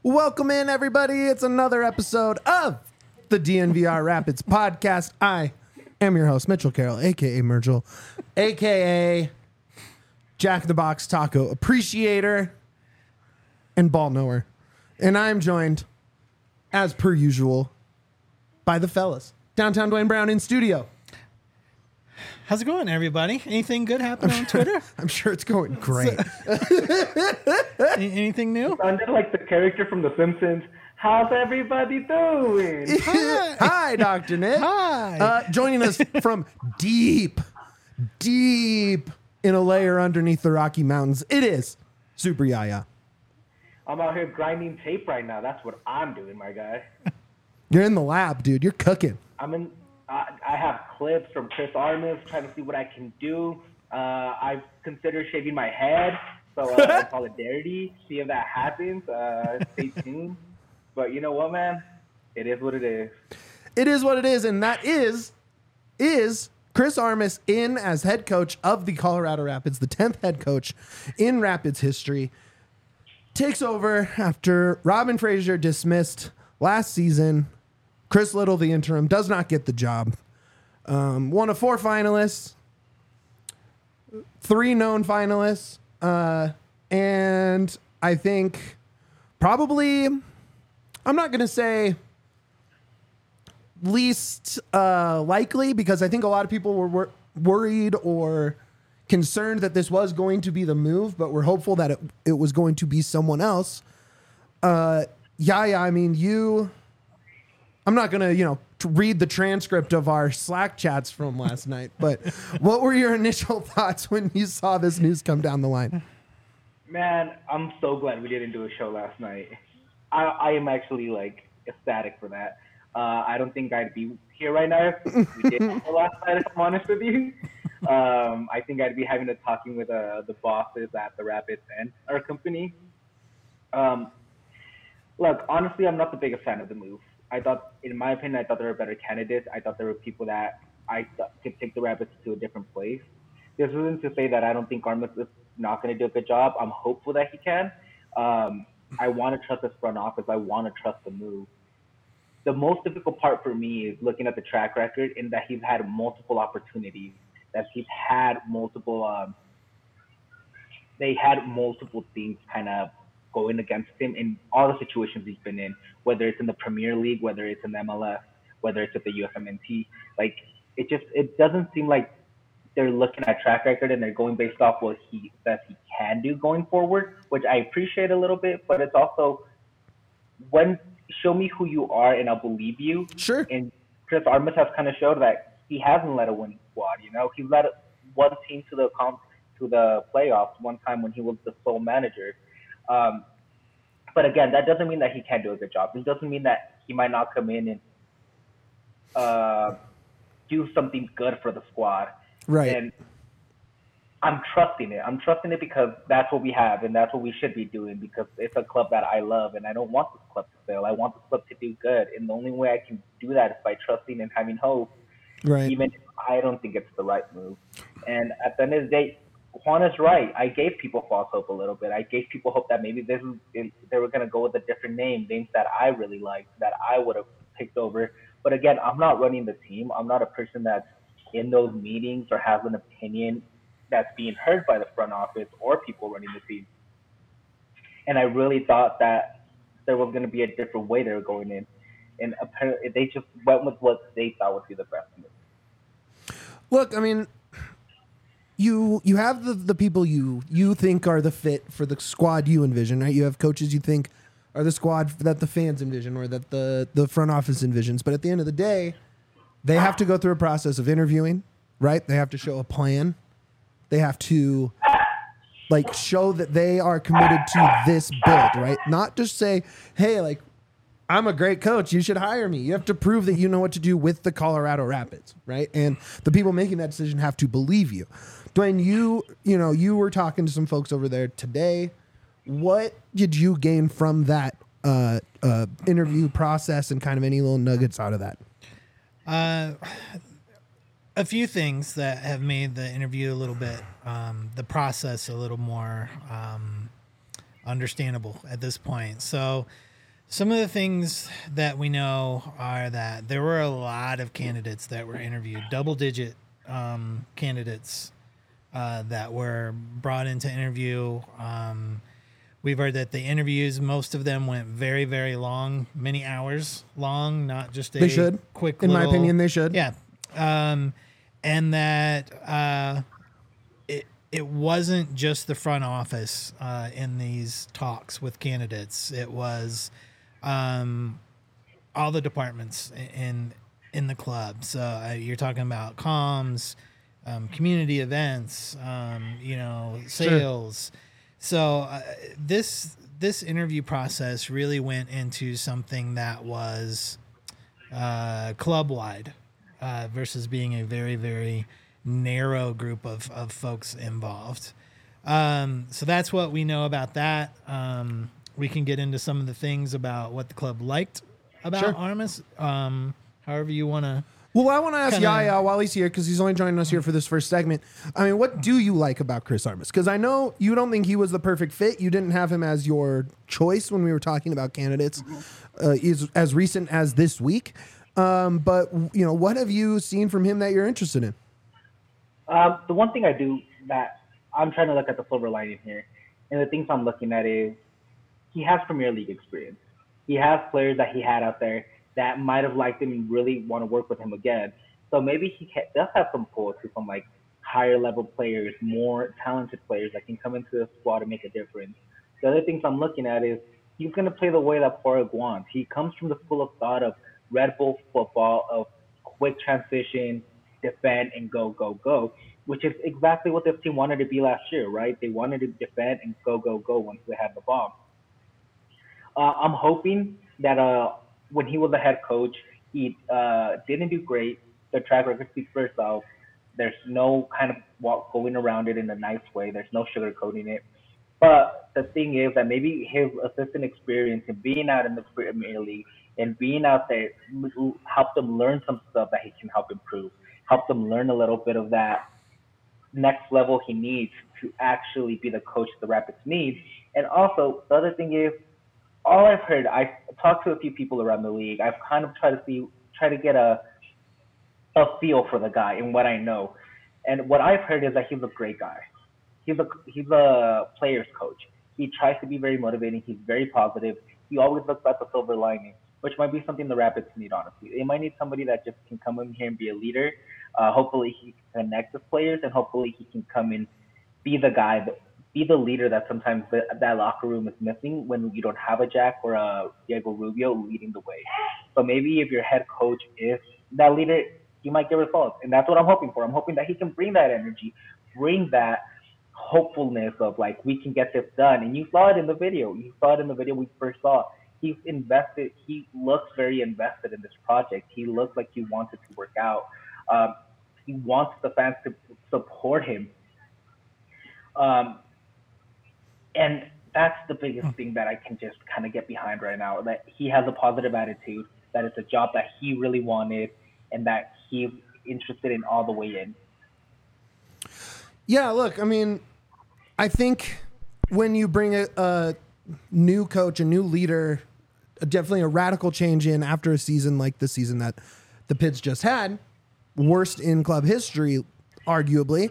Welcome in, everybody. It's another episode of the DNVR Rapids podcast. I am your host, Mitchell Carroll, a.k.a. Mergel, a.k.a. Jack in the Box Taco Appreciator and Ball Knower. And I'm joined, as per usual, by the fellas. Downtown Dwayne Brown in studio. How's it going, everybody? Anything good happen on Twitter? I'm sure it's going great. Anything new? Sounded like the character from The Simpsons. How's everybody doing? Hi, Dr. Nick. Hi. Joining us from deep in a layer underneath the Rocky Mountains, it is Super Yaya. I'm out here grinding tape right now. That's what I'm doing, my guy. You're in the lab, dude. You're cooking. I have clips from Chris Armas trying to see what I can do. I've considered shaving my head, so in solidarity, see if that happens. Stay tuned. But you know what, man? It is what it is. It is what it is, and that is Chris Armas in as head coach of the Colorado Rapids, the 10th head coach in Rapids history. Takes over after Robin Fraser dismissed last season. Chris Little, the interim, does not get the job. One of 4 finalists, 3 known finalists, and I think probably, I'm not going to say least likely, because I think a lot of people were worried or concerned that this was going to be the move, but we're hopeful that it was going to be someone else. I mean, I'm not going to, read the transcript of our Slack chats from last night, but what were your initial thoughts when you saw this news come down the line? Man, I'm so glad we didn't do a show last night. I am actually, ecstatic for that. I don't think I'd be here right now if we did the last night, if I'm honest with you. I think I'd be having a talking with the bosses at the Rapids and our company. Look, honestly, I'm not the biggest fan of the move. In my opinion, I thought there were better candidates. I thought there were people that I thought could take the Rapids to a different place. This isn't to say that I don't think Armas is not going to do a good job. I'm hopeful that he can. I want to trust his front office. I want to trust the move. The most difficult part for me is looking at the track record in that he's had multiple opportunities, that he's had multiple they had multiple things kind of going against him in all the situations he's been in, whether it's in the Premier League, whether it's in the MLS, whether it's at the USMNT. It doesn't seem like they're looking at track record and they're going based off what he says he can do going forward, which I appreciate a little bit, but it's also show me who you are and I'll believe you. Sure. And Chris Armas has kind of showed that he hasn't led a winning squad. He led one team to the playoffs one time when he was the sole manager. But again, that doesn't mean that he can't do a good job. It doesn't mean that he might not come in and do something good for the squad. Right. And I'm trusting it. I'm trusting it because that's what we have and that's what we should be doing, because it's a club that I love and I don't want this club to fail. I want this club to do good. And the only way I can do that is by trusting and having hope. Right. Even if I don't think it's the right move. And at the end of the day, Juan is right. I gave people false hope a little bit. I gave people hope that maybe they were going to go with a different names that I really liked, that I would have picked over. But again, I'm not running the team. I'm not a person that's in those meetings or has an opinion that's being heard by the front office or people running the team. And I really thought that there was going to be a different way they were going in. And apparently they just went with what they thought would be the best move. Look, I mean, you have the people you think are the fit for the squad you envision, right? You have coaches you think are the squad that the fans envision or that the front office envisions. But at the end of the day, they have to go through a process of interviewing, right? They have to show a plan. They have to show that they are committed to this build, right? Not just say, hey, I'm a great coach, you should hire me. You have to prove that you know what to do with the Colorado Rapids, right? And the people making that decision have to believe you. Dwayne, you were talking to some folks over there today. What did you gain from that interview process and kind of any little nuggets out of that? A few things that have made the interview a little bit, the process a little more understandable at this point. So Some of the things that we know are that there were a lot of candidates that were interviewed, double-digit candidates that were brought into interview. We've heard that the interviews, most of them went very, very long, many hours long, not just a They should. quick In my little- opinion, they should. Yeah. And that it wasn't just the front office in these talks with candidates. It was all the departments in the club. So you're talking about comms, community events, sales. Sure. So this interview process really went into something that was club wide versus being a very, very narrow group of folks involved. So that's what we know about that. We can get into some of the things about what the club liked about Sure. Armas. However you want to. Well, I want to ask Kinda- Yaya while he's here, because he's only joining us here for this first segment. I mean, what do you like about Chris Armas? Because I know you don't think he was the perfect fit. You didn't have him as your choice when we were talking about candidates as recent as this week. But, what have you seen from him that you're interested in? The one thing I do that I'm trying to look at the silver lining here, and the things I'm looking at is he has Premier League experience. He has players that he had out there that might have liked him and really want to work with him again. So maybe he does have some pull to some like higher level players, more talented players that can come into the squad and make a difference. The other things I'm looking at is he's going to play the way that Padraig wants. He comes from the school of thought of Red Bull football, of quick transition, defend, and go, go, go, which is exactly what this team wanted to be last year, right? They wanted to defend and go, go, go once they had the ball. I'm hoping that when he was the head coach, he didn't do great. The track record speaks for itself. There's no kind of going around it in a nice way. There's no sugarcoating it. But the thing is that maybe his assistant experience and being out in the Premier League and being out there helped him learn some stuff that he can help improve, helped him learn a little bit of that next level he needs to actually be the coach the Rapids need. And also, the other thing is, all I've heard, I've talked to a few people around the league. I've kind of tried to get a feel for the guy and what I know. And what I've heard is that he's a great guy. He's a player's coach. He tries to be very motivating. He's very positive. He always looks at the silver lining, which might be something the Rapids need, honestly. They might need somebody that just can come in here and be a leader. Hopefully he can connect with players, and hopefully he can come in, be the guy, be the leader that sometimes that locker room is missing when you don't have a Jack or a Diego Rubio leading the way. So maybe if your head coach is that leader, you might get results. And that's what I'm hoping for. I'm hoping that he can bring that energy, bring that hopefulness of like, we can get this done. And you saw it in the video. You saw it in the video we first saw. He's invested. He looks very invested in this project. He looks like he wants it to work out. He wants the fans to support him. And that's the biggest thing that I can just kind of get behind right now, that he has a positive attitude, that it's a job that he really wanted, and that he's interested in all the way in. Yeah, look, I mean, I think when you bring a new coach, a new leader, definitely a radical change in after a season like the season that the Pits just had, worst in club history, arguably,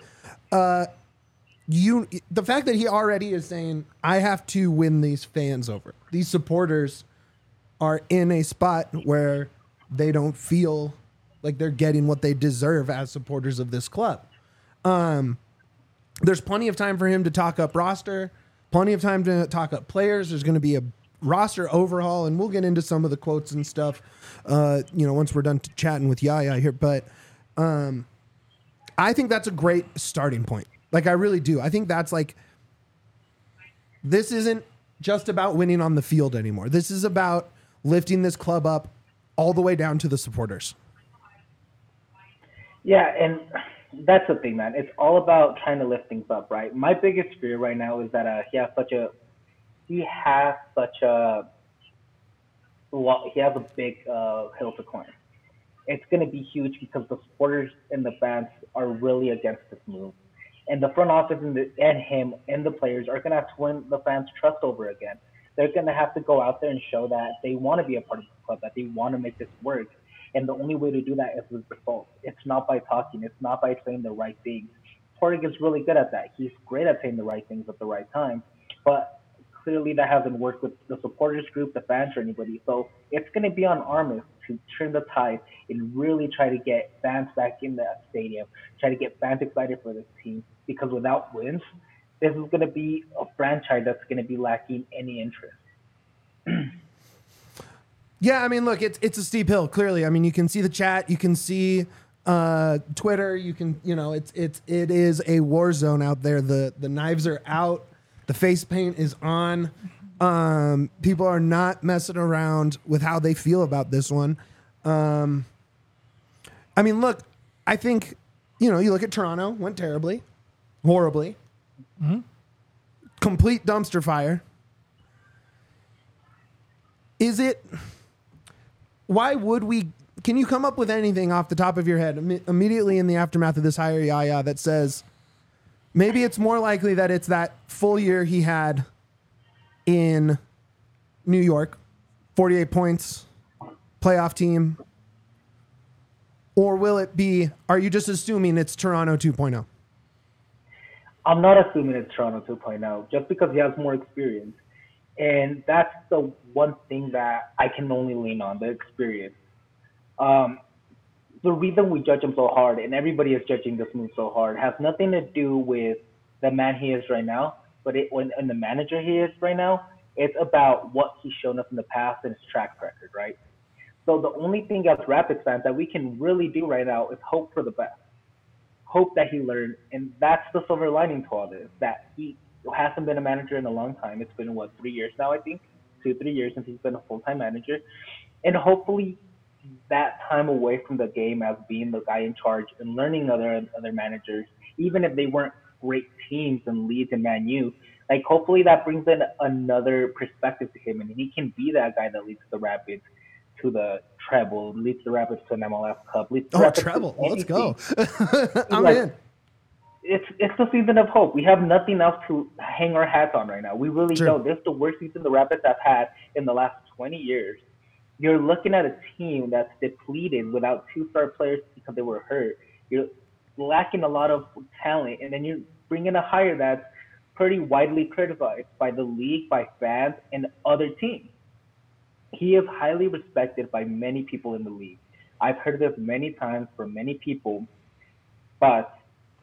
the fact that he already is saying, I have to win these fans over. These supporters are in a spot where they don't feel like they're getting what they deserve as supporters of this club. There's plenty of time for him to talk up roster, plenty of time to talk up players. There's going to be a roster overhaul, and we'll get into some of the quotes and stuff, once we're done chatting with Yaya here. But I think that's a great starting point. Like, I really do. I think that's like, this isn't just about winning on the field anymore. This is about lifting this club up all the way down to the supporters. Yeah, and that's the thing, man. It's all about trying to lift things up, right? My biggest fear right now is that he has a big hill to climb. It's going to be huge because the supporters and the fans are really against this move. And the front office and him and the players are going to have to win the fans' trust over again. They're going to have to go out there and show that they want to be a part of the club, that they want to make this work. And the only way to do that is with results. It's not by talking. It's not by saying the right things. Torg is really good at that. He's great at saying the right things at the right time. But clearly that hasn't worked with the supporters group, the fans, or anybody. So it's going to be on Armas to turn the tide and really try to get fans back in the stadium, try to get fans excited for this team. Because without wins, this is going to be a franchise that's going to be lacking any interest. Yeah, I mean, look, it's a steep hill. Clearly, I mean, you can see the chat, you can see Twitter, you can, it is a war zone out there. The knives are out. The face paint is on. People are not messing around with how they feel about this one. I mean, look, I think, you look at Toronto, went terribly, horribly. Mm-hmm. Complete dumpster fire. Why would we, can you come up with anything off the top of your head immediately in the aftermath of this hire Yaya that says, maybe it's more likely that it's that full year he had in New York, 48 points, playoff team, or will it be, are you just assuming it's Toronto 2.0? I'm not assuming it's Toronto 2.0 just because he has more experience. And that's the one thing that I can only lean on, the experience. The reason we judge him so hard, and everybody is judging this move so hard, has nothing to do with the man he is right now, and the manager he is right now. It's about what he's shown us in the past and his track record, right? So the only thing as Rapids fans that we can really do right now is hope for the best. Hope that he learned, and that's the silver lining to all this, that he hasn't been a manager in a long time. It's been, 3 years now, I think? 2-3 years since he's been a full-time manager. And hopefully that time away from the game as being the guy in charge and learning other managers, even if they weren't great teams and Leeds and Man U, like hopefully that brings in another perspective to him, and he can be that guy that leads the Rapids to the treble, leads the Rapids to an MLS Cup. Leads the Rapids treble! Let's go. I'm in. It's the season of hope. We have nothing else to hang our hats on right now. We really don't. This is the worst season the Rapids have had in the last 20 years. You're looking at a team that's depleted without two-star players because they were hurt. You're lacking a lot of talent, and then you're bringing a hire that's pretty widely criticized by the league, by fans, and other teams. He is highly respected by many people in the league. I've heard this many times from many people, but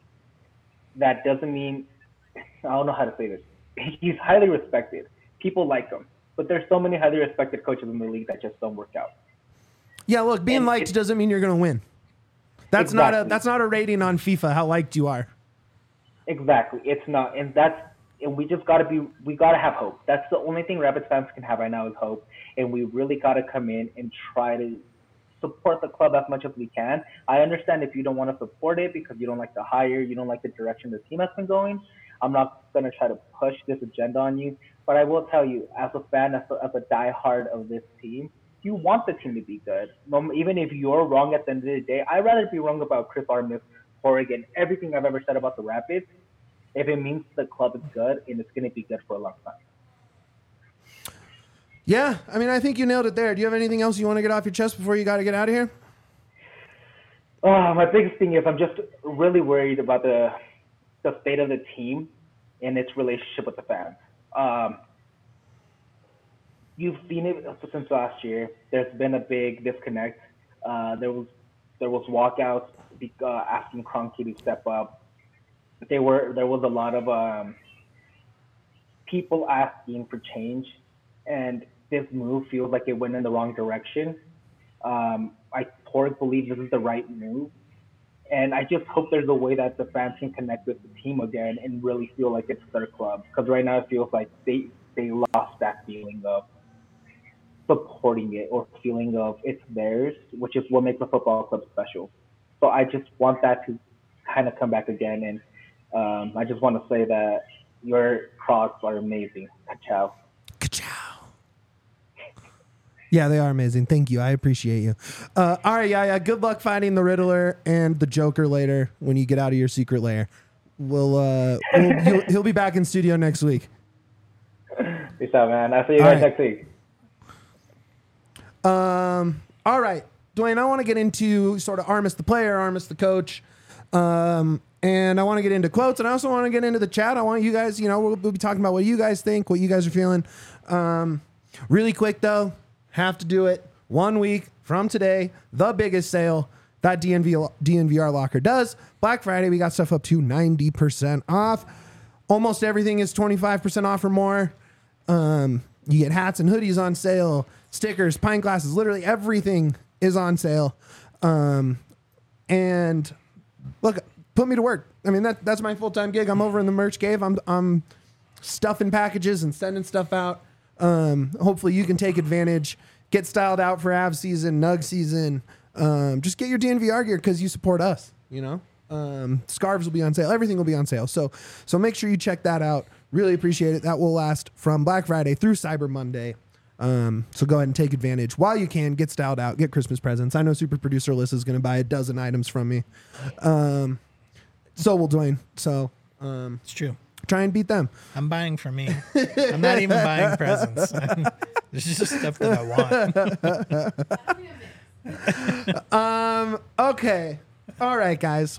that doesn't mean, I don't know how to say this. He's highly respected. People like him. But there's so many highly respected coaches in the league that just don't work out. Yeah, look, being liked doesn't mean you're going to win. That's not a rating on FIFA how liked you are. Exactly, it's not, and we just gotta have hope. That's the only thing Rapids fans can have right now is hope, and we really gotta come in and try to support the club as much as we can. I understand if you don't want to support it because you don't like the hire, you don't like the direction the team has been going. I'm not gonna try to push this agenda on you, but I will tell you, as a fan, as a diehard of this team, you want the team to be good. Even if you're wrong at the end of the day, I'd rather be wrong about Chris Armas, Oregon, everything I've ever said about the Rapids, if it means the club is good and it's going to be good for a long time. Yeah, I mean, I think you nailed it there. Do you have anything else you want to get off your chest before you got to get out of here? My biggest thing is I'm just really worried about the state of the team and its relationship with the fans. You've seen it since last year. There's been a big disconnect. There was walkouts asking Kroenke to step up. There was a lot of people asking for change, and this move feels like it went in the wrong direction. I believe this is the right move, and I just hope there's a way that the fans can connect with the team again and really feel like it's their club. Because right now it feels like they lost that feeling of supporting it or feeling of it's theirs, which is what makes a football club special. So I just want that to kind of come back again, and I just want to say that your Crocs are amazing. Ka-chow. Ka-chow. Yeah, they are amazing. Thank you. I appreciate you. All right, yeah. Good luck finding the Riddler and the Joker later when you get out of your secret lair. He'll be back in studio next week. Peace out, man. I'll see you All guys right. next week. All right, Dwayne, I want to get into sort of Armis the player, Armis the coach. And I want to get into quotes, and I also want to get into the chat. I want you guys, we'll be talking about what you guys think, what you guys are feeling. Really quick, though, have to do it. 1 week from today, the biggest sale that DNVR Locker does. Black Friday, we got stuff up to 90% off. Almost everything is 25% off or more. You get hats and hoodies on sale, stickers, pint glasses, literally everything is on sale. And look, put me to work. I mean, that's my full-time gig. I'm over in the merch cave. I'm stuffing packages and sending stuff out. Hopefully you can take advantage, get styled out for Av season, Nug season. Just get your DNVR gear because you support us, Scarves will be on sale. Everything will be on sale. So make sure you check that out. Really appreciate it. That will last from Black Friday through Cyber Monday. So go ahead and take advantage while you can. Get styled out, get Christmas presents. I know super producer Alyssa is going to buy a dozen items from me. So will Dwayne. So It's true. try and beat them. I'm buying for me. I'm not even buying presents. This is just stuff that I want. Okay. All right, guys.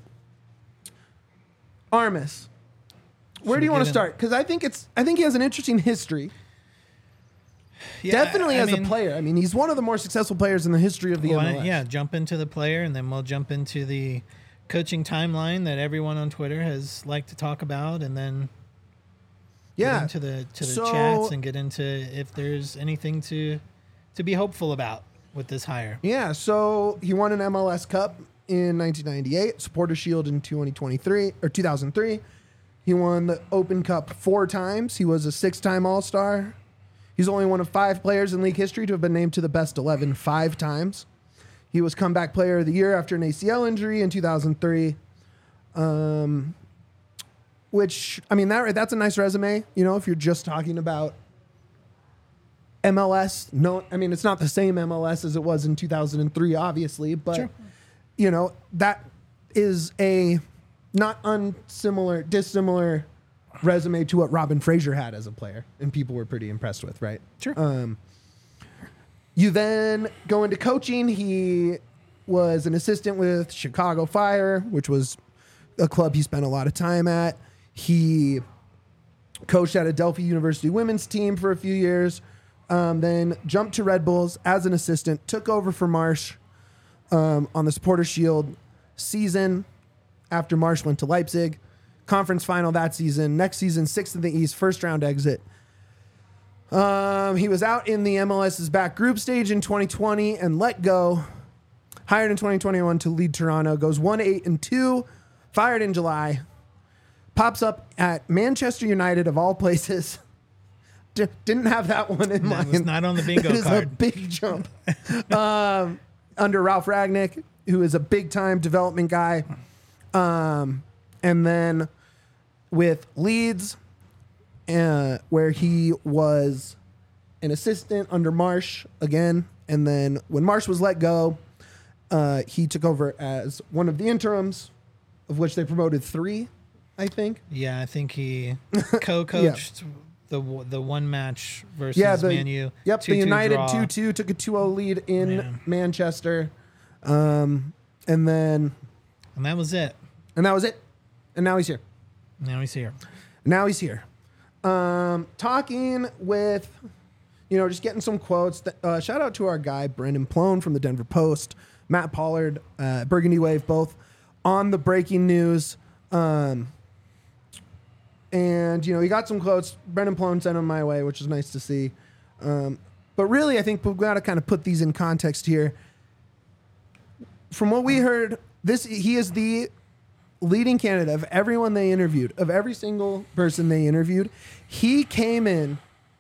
Armis. Where Should do you we want to get start? Because I think he has an interesting history. Yeah, Definitely as a player. I mean, he's one of the more successful players in the history of the MLS. Yeah, jump into the player, and then we'll jump into the coaching timeline that everyone on Twitter has liked to talk about, and then get into the chats and get into if there's anything to be hopeful about with this hire. Yeah, so he won an MLS Cup in 1998, Supporter Shield in 2003. He won the Open Cup 4 times. He was a 6-time All-Star. He's only one of 5 players in league history to have been named to the best 11 5 times. He was Comeback Player of the Year after an ACL injury in 2003. Which, I mean, that's a nice resume, if you're just talking about MLS. No, I mean, it's not the same MLS as it was in 2003, obviously, but, Sure. That is a not dissimilar resume to what Robin Fraser had as a player, and people were pretty impressed with, right? Sure. You then go into coaching. He was an assistant with Chicago Fire, which was a club he spent a lot of time at. He coached at Adelphi University women's team for a few years, then jumped to Red Bulls as an assistant, took over for Marsh on the Supporter Shield season after Marsh went to Leipzig. Conference final that season. Next season, 6th in the East, first round exit. He was out in the MLS's back group stage in 2020 and let go. Hired in 2021 to lead Toronto. Goes 1-8-2. Fired in July. Pops up at Manchester United of all places. Didn't have that one in mind. That was not on the bingo It is a card. big jump. Under Ralph Ragnick, who is a big-time development guy. And then with Leeds, where he was an assistant under Marsh again. And then when Marsh was let go, he took over as one of the interims, of which they promoted 3, I think. Yeah, I think he co-coached the one match versus Man U. Yep, 2-2 the United draw. 2-2 took a 2-0 lead in Manchester. And then... And that was it. And that was it. And now he's here. Now he's here. Talking with, just getting some quotes. Shout out to our guy, Brendan Plone from the Denver Post, Matt Pollard, Burgundy Wave, both on the breaking news. And, he got some quotes. Brendan Plone sent them my way, which is nice to see. But really, I think we've got to kind of put these in context here. From what we heard, he is the leading candidate of everyone they interviewed, of every single person they interviewed. He came in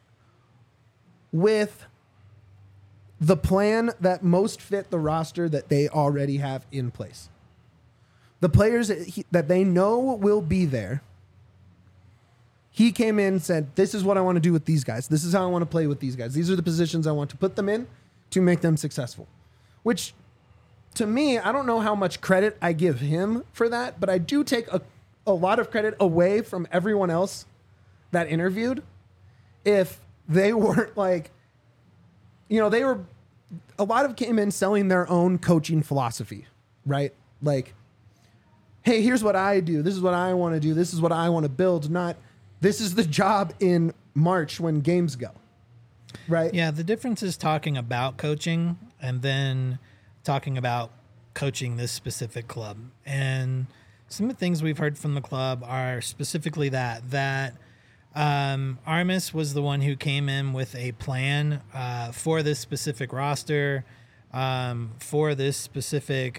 with the plan that most fit the roster that they already have in place. The players that they know will be there. He came in and said, this is what I want to do with these guys. This is how I want to play with these guys. These are the positions I want to put them in to make them successful. Which, to me, I don't know how much credit I give him for that, but I do take a lot of credit away from everyone else that interviewed. If they weren't like, they were, a lot of came in selling their own coaching philosophy, right? Like, hey, here's what I do. This is what I want to do. This is what I want to build. Not, this is the job in March when games go, right? Yeah, the difference is talking about coaching and then talking about coaching this specific club. And some of the things we've heard from the club are specifically that Armas was the one who came in with a plan for this specific roster, for this specific,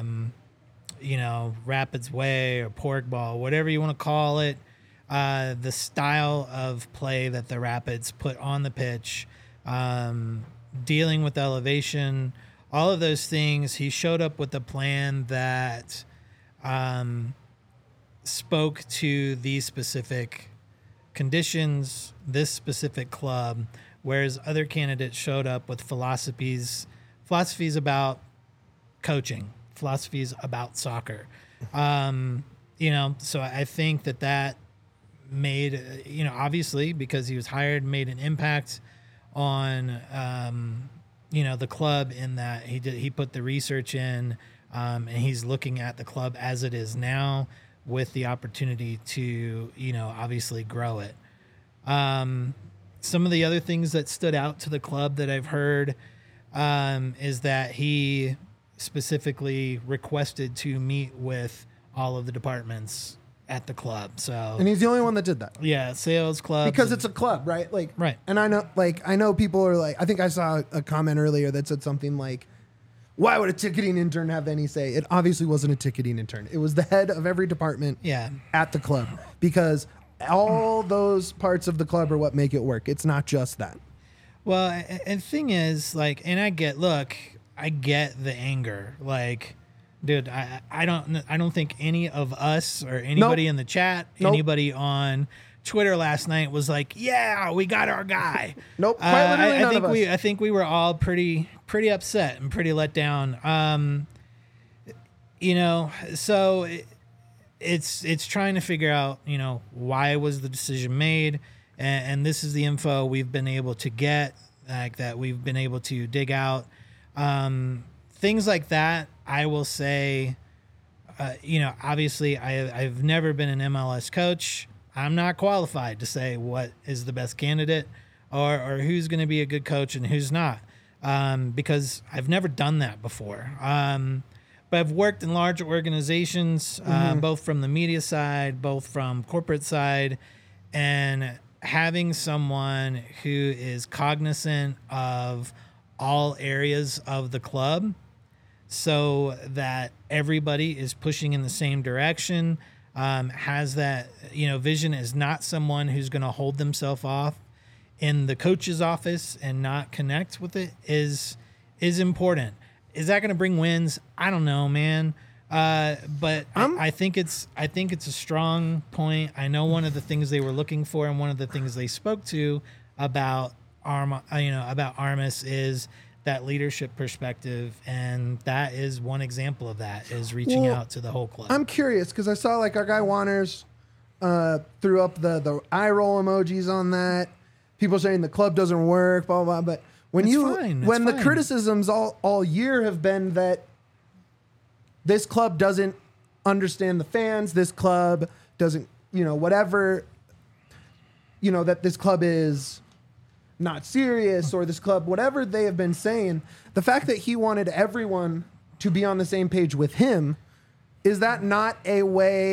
Rapids way or pork ball, whatever you want to call it, the style of play that the Rapids put on the pitch, dealing with elevation, all of those things. He showed up with a plan that spoke to these specific conditions, this specific club, whereas other candidates showed up with philosophies about coaching, philosophies about soccer. So I think that made, obviously because he was hired, made an impact on, the club in that he put the research in, and he's looking at the club as it is now with the opportunity to, obviously grow it. Some of the other things that stood out to the club that I've heard is that he specifically requested to meet with all of the departments at the club. And he's the only one that did that. Yeah, sales club. Because it's a club, right? Like, right. And I know people are like, I think I saw a comment earlier that said something like, why would a ticketing intern have any say? It obviously wasn't a ticketing intern. It was the head of every department at the club, because all those parts of the club are what make it work. It's not just that. Well, and the thing is, like, and I get the anger. Like, dude, I don't think any of us or anybody in the chat, anybody on Twitter last night was like, yeah, we got our guy. Nope. Quite literally none of us. I think we were all pretty upset and pretty let down. So it's trying to figure out, why was the decision made, and this is the info we've been able to get, like that we've been able to dig out. Things like that, I will say, obviously I've never been an MLS coach. I'm not qualified to say what is the best candidate or who's going to be a good coach and who's not, because I've never done that before. But I've worked in large organizations, both from the media side, both from corporate side, and having someone who is cognizant of all areas of the club so that everybody is pushing in the same direction, has that, vision, is not someone who's going to hold themselves off in the coach's office and not connect with it is important. Is that going to bring wins? I don't know, man. But I think it's a strong point. I know one of the things they were looking for and one of the things they spoke to about Armas is that leadership perspective, and that is one example of that, is reaching out to the whole club. I'm curious because I saw like our guy Wanners threw up the eye roll emojis on that. People saying the club doesn't work, blah blah blah. But when the criticisms all year have been that this club doesn't understand the fans, this club doesn't, whatever, that this club is not serious, or this club, whatever they have been saying, the fact that he wanted everyone to be on the same page with him, is that not a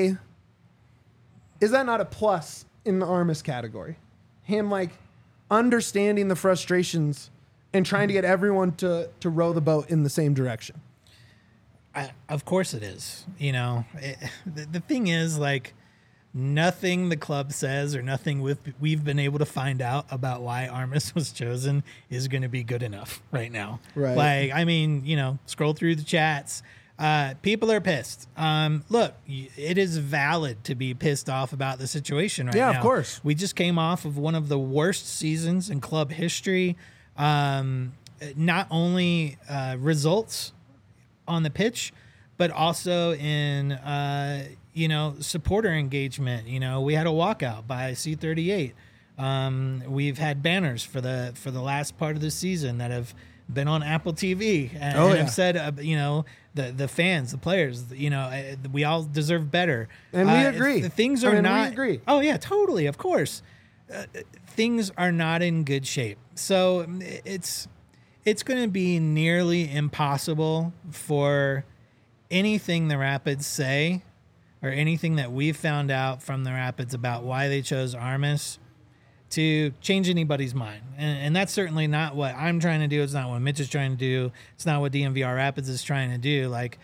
plus in the Armas category? Him like understanding the frustrations and trying to get everyone to row the boat in the same direction. Of course it is. The thing is, like, nothing the club says or nothing we've been able to find out about why Armas was chosen is going to be good enough right now. Right. Like, I mean, scroll through the chats. People are pissed. Look, it is valid to be pissed off about the situation right now. Yeah, of course. We just came off of one of the worst seasons in club history. Not only results on the pitch, but also in, supporter engagement. We had a walkout by C38. We've had banners for the last part of the season that have been on Apple TV and, have said, the fans, the players, we all deserve better. And we agree. Things are not. We agree. Oh yeah, totally. Of course, things are not in good shape. So it's going to be nearly impossible for anything the Rapids say or anything that we've found out from the Rapids about why they chose Armas to change anybody's mind. And that's certainly not what I'm trying to do. It's not what Mitch is trying to do. It's not what DMVR Rapids is trying to do. Like,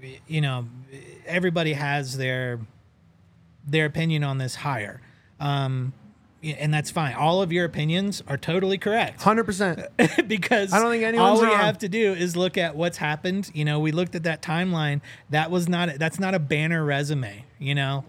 everybody has their opinion on this hire. And that's fine. All of your opinions are totally correct. 100%. Because I don't think anyone's all we wrong. have to do is look at what's happened. We looked at that timeline. That's not a banner resume, No.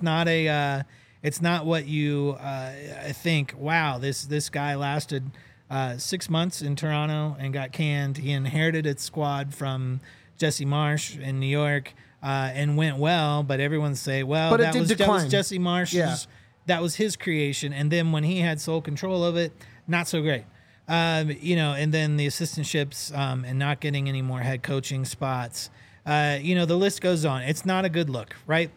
It's not what you think. Wow, this guy lasted 6 months in Toronto and got canned. He inherited its squad from Jesse Marsh in New York and went well. But everyone say, well, that was Jesse Marsh's. Yeah. That was his creation. And then when he had sole control of it, not so great. And then the assistantships and not getting any more head coaching spots. The list goes on. It's not a good look, right?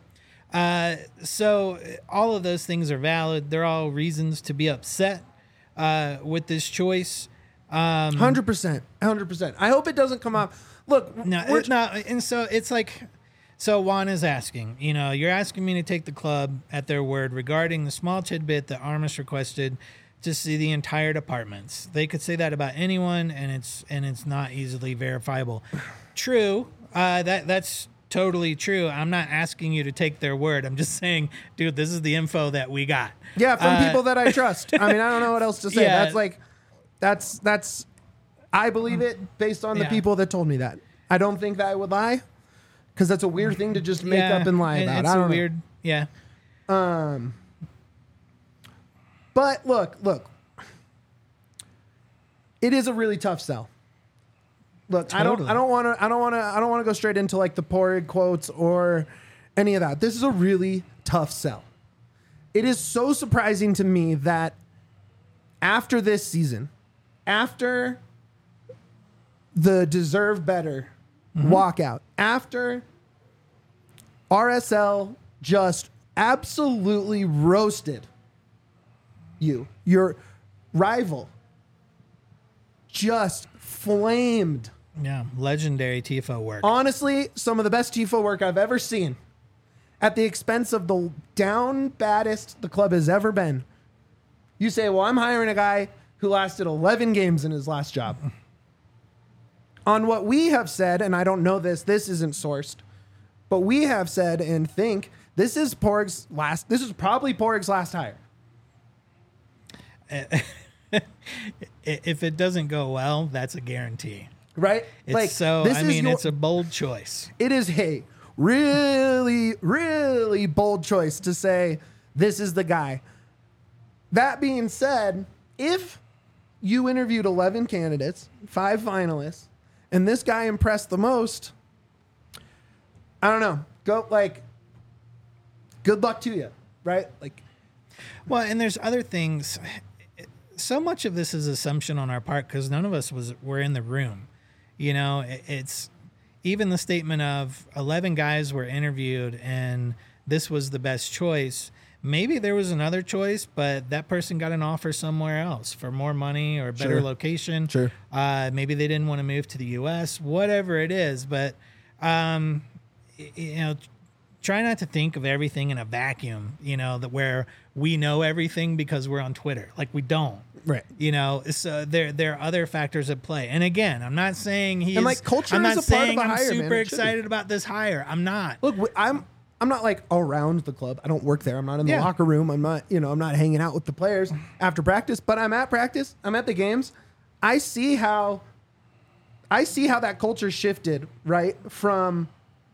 So all of those things are valid. They're all reasons to be upset with this choice. 100%. 100%. I hope it doesn't come up. Look, no, it's not. And so it's like, so Juan is asking, you're asking me to take the club at their word regarding the small tidbit that Armas requested to see the entire departments. They could say that about anyone, and it's not easily verifiable. True. That's totally true. I'm not asking you to take their word. I'm just saying, dude, this is the info that we got. Yeah, from people that I trust. I mean, I don't know what else to say. Yeah. That's I believe it based on the people that told me that. I don't think that I would lie, because that's a weird thing to just make up and lie about. It's I don't know. weird. Yeah. But look. It is a really tough sell. Look, Totally. I don't want to go straight into like the Porig quotes or any of that. This is a really tough sell. It is so surprising to me that after this season, after the deserve better walkout, after RSL just absolutely roasted you, your rival just flamed. Yeah. Legendary TIFO work. Honestly, some of the best TIFO work I've ever seen at the expense of the down baddest the club has ever been. You say, well, I'm hiring a guy who lasted 11 games in his last job. On what we have said, and I don't know this isn't sourced, but we have said and think this is probably Porig's last hire. If it doesn't go well, that's a guarantee. Right? It's a bold choice. It is a really, really bold choice to say this is the guy. That being said, if you interviewed 11 candidates, 5 finalists, and this guy impressed the most, I don't know. Good luck to you, right? Well, and there's other things. So much of this is assumption on our part because none of us were in the room. It's even the statement of 11 guys were interviewed and this was the best choice. Maybe there was another choice, but that person got an offer somewhere else for more money or better location. Sure. Maybe they didn't want to move to the U.S., whatever it is. But, try not to think of everything in a vacuum, where we know everything because we're on Twitter. Like, we don't. Right. So there are other factors at play. And again, I'm not saying culture I'm not is a part of saying a hire, I'm man. super It should be. excited about this hire. I'm not. Look, I'm not around the club. I don't work there. I'm not in the locker room. I'm not, I'm not hanging out with the players after practice, but I'm at practice. I'm at the games. I see how that culture shifted, right? From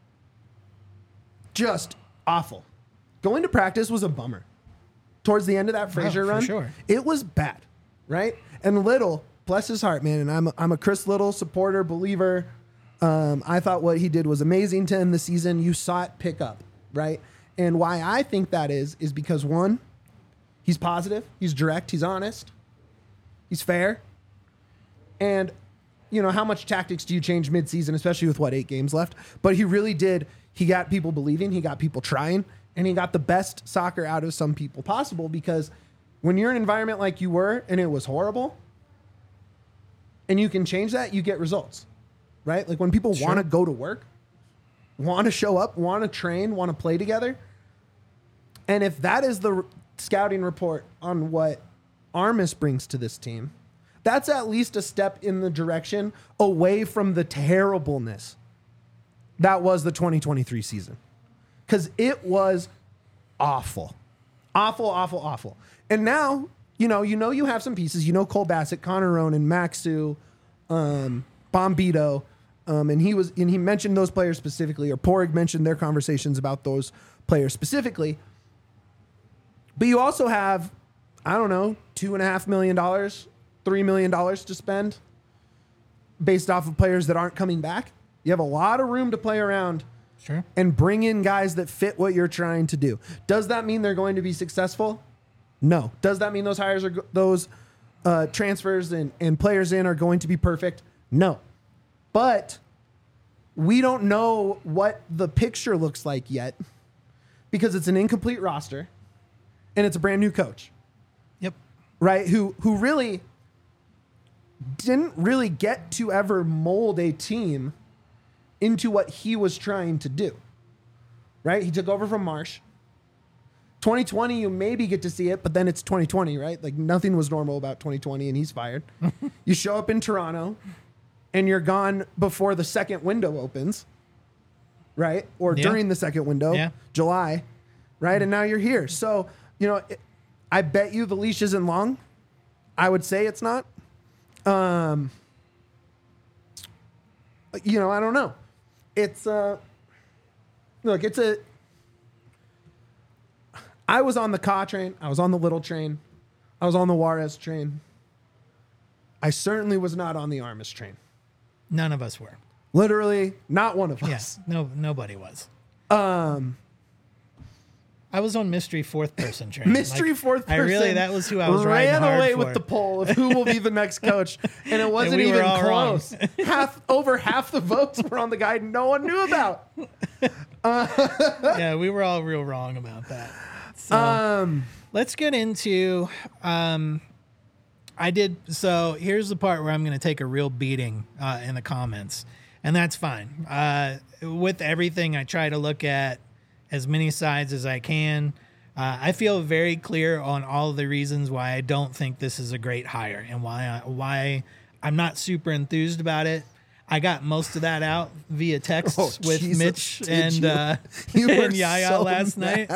just awful. Going to practice was a bummer. Towards the end of that Fraser run, sure. It was bad, right? And Little, bless his heart, man, and I'm a Chris Little supporter, believer. I thought what he did was amazing to end the season. You saw it pick up, right? And why I think that is because one, He's positive. He's direct. He's honest. He's fair. And, how much tactics do you change midseason, especially with 8 games left? But he really did. He got people believing. He got people trying. And he got the best soccer out of some people possible, because when you're in an environment like you were and it was horrible and you can change that, you get results, right? Like when people want to go to work, want to show up, want to train, want to play together. And if that is the scouting report on what Armas brings to this team, that's at least a step in the direction away from the terribleness that was the 2023 season. Because it was awful. Awful, awful, awful. And now, you have some pieces. Cole Bassett, Connor Ronan, Maxu, Bombito. And he mentioned those players specifically, or Porig mentioned their conversations about those players specifically. But you also have, $2.5 million, $3 million to spend based off of players that aren't coming back. You have a lot of room to play around. Sure. And bring in guys that fit what you're trying to do. Does that mean they're going to be successful? No. Does that mean those hires are those transfers and players in are going to be perfect? No. But we don't know what the picture looks like yet, because it's an incomplete roster and it's a brand new coach. Yep. Right? Who really didn't really get to ever mold a team into what he was trying to do, right? He took over from Marsh. 2020, you maybe get to see it, but then it's 2020, right? Like nothing was normal about 2020 and he's fired. You show up in Toronto and you're gone before the second window opens, right? Or during the second window, July, right? And now you're here. So, I bet you the leash isn't long. I would say it's not. I don't know. It's I was on the Ka train. I was on the Little train. I was on the Juarez train. I certainly was not on the Armas train. None of us were. Literally, not one of us. Yes, nobody was. I was on mystery fourth person train. Fourth person. That was who I was riding hard for. Ran away with the poll of who will be the next coach, and it wasn't even close. Over half the votes were on the guy no one knew about. Yeah, we were all real wrong about that. So, let's get into. So here's the part where I'm going to take a real beating in the comments, and that's fine. With everything, I try to look at as many sides as I can. I feel very clear on all of the reasons why I don't think this is a great hire and why I'm not super enthused about it. I got most of that out via text with Mitch and Yaya last night.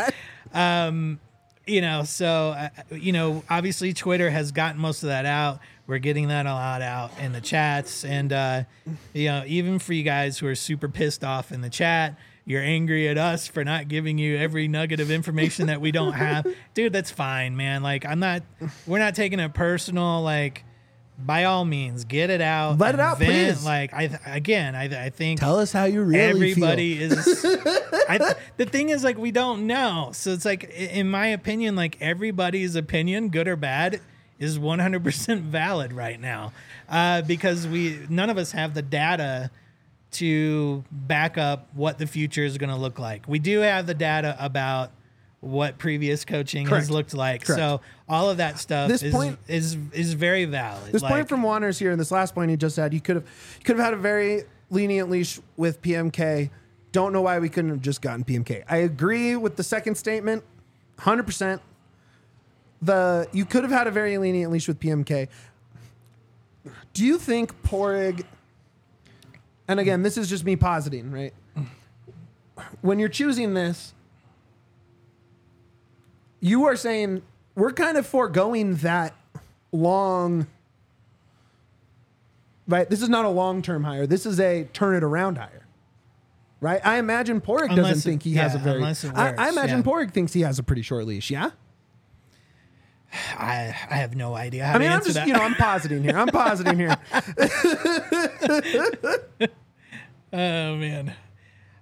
Obviously Twitter has gotten most of that out. We're getting that a lot out in the chats. And, even for you guys who are super pissed off in the chat, you're angry at us for not giving you every nugget of information that we don't have. Dude, that's fine, man. Like, we're not taking it personal. Like, by all means, get it out. Let it out, please. Like, I think. Tell us how you really everybody feel. The thing is, like, we don't know. So it's like, in my opinion, like, everybody's opinion, good or bad, is 100% valid right now. Because none of us have the data to back up what the future is going to look like. We do have the data about what previous coaching has looked like. Correct. So all of that stuff is very valid. This point from Wanners here, and this last point he just had, you could have had a very lenient leash with PMK. Don't know why we couldn't have just gotten PMK. I agree with the second statement, 100%. You could have had a very lenient leash with PMK. Do you think Porig, and again, this is just me positing, right? When you're choosing this, you are saying we're kind of foregoing that long, right? This is not a long-term hire. This is a turn it around hire, right? I imagine Porig doesn't think he has a very. I imagine Porig thinks he has a pretty short leash. Yeah. I have no idea how to answer that. I'm positing here. Oh man.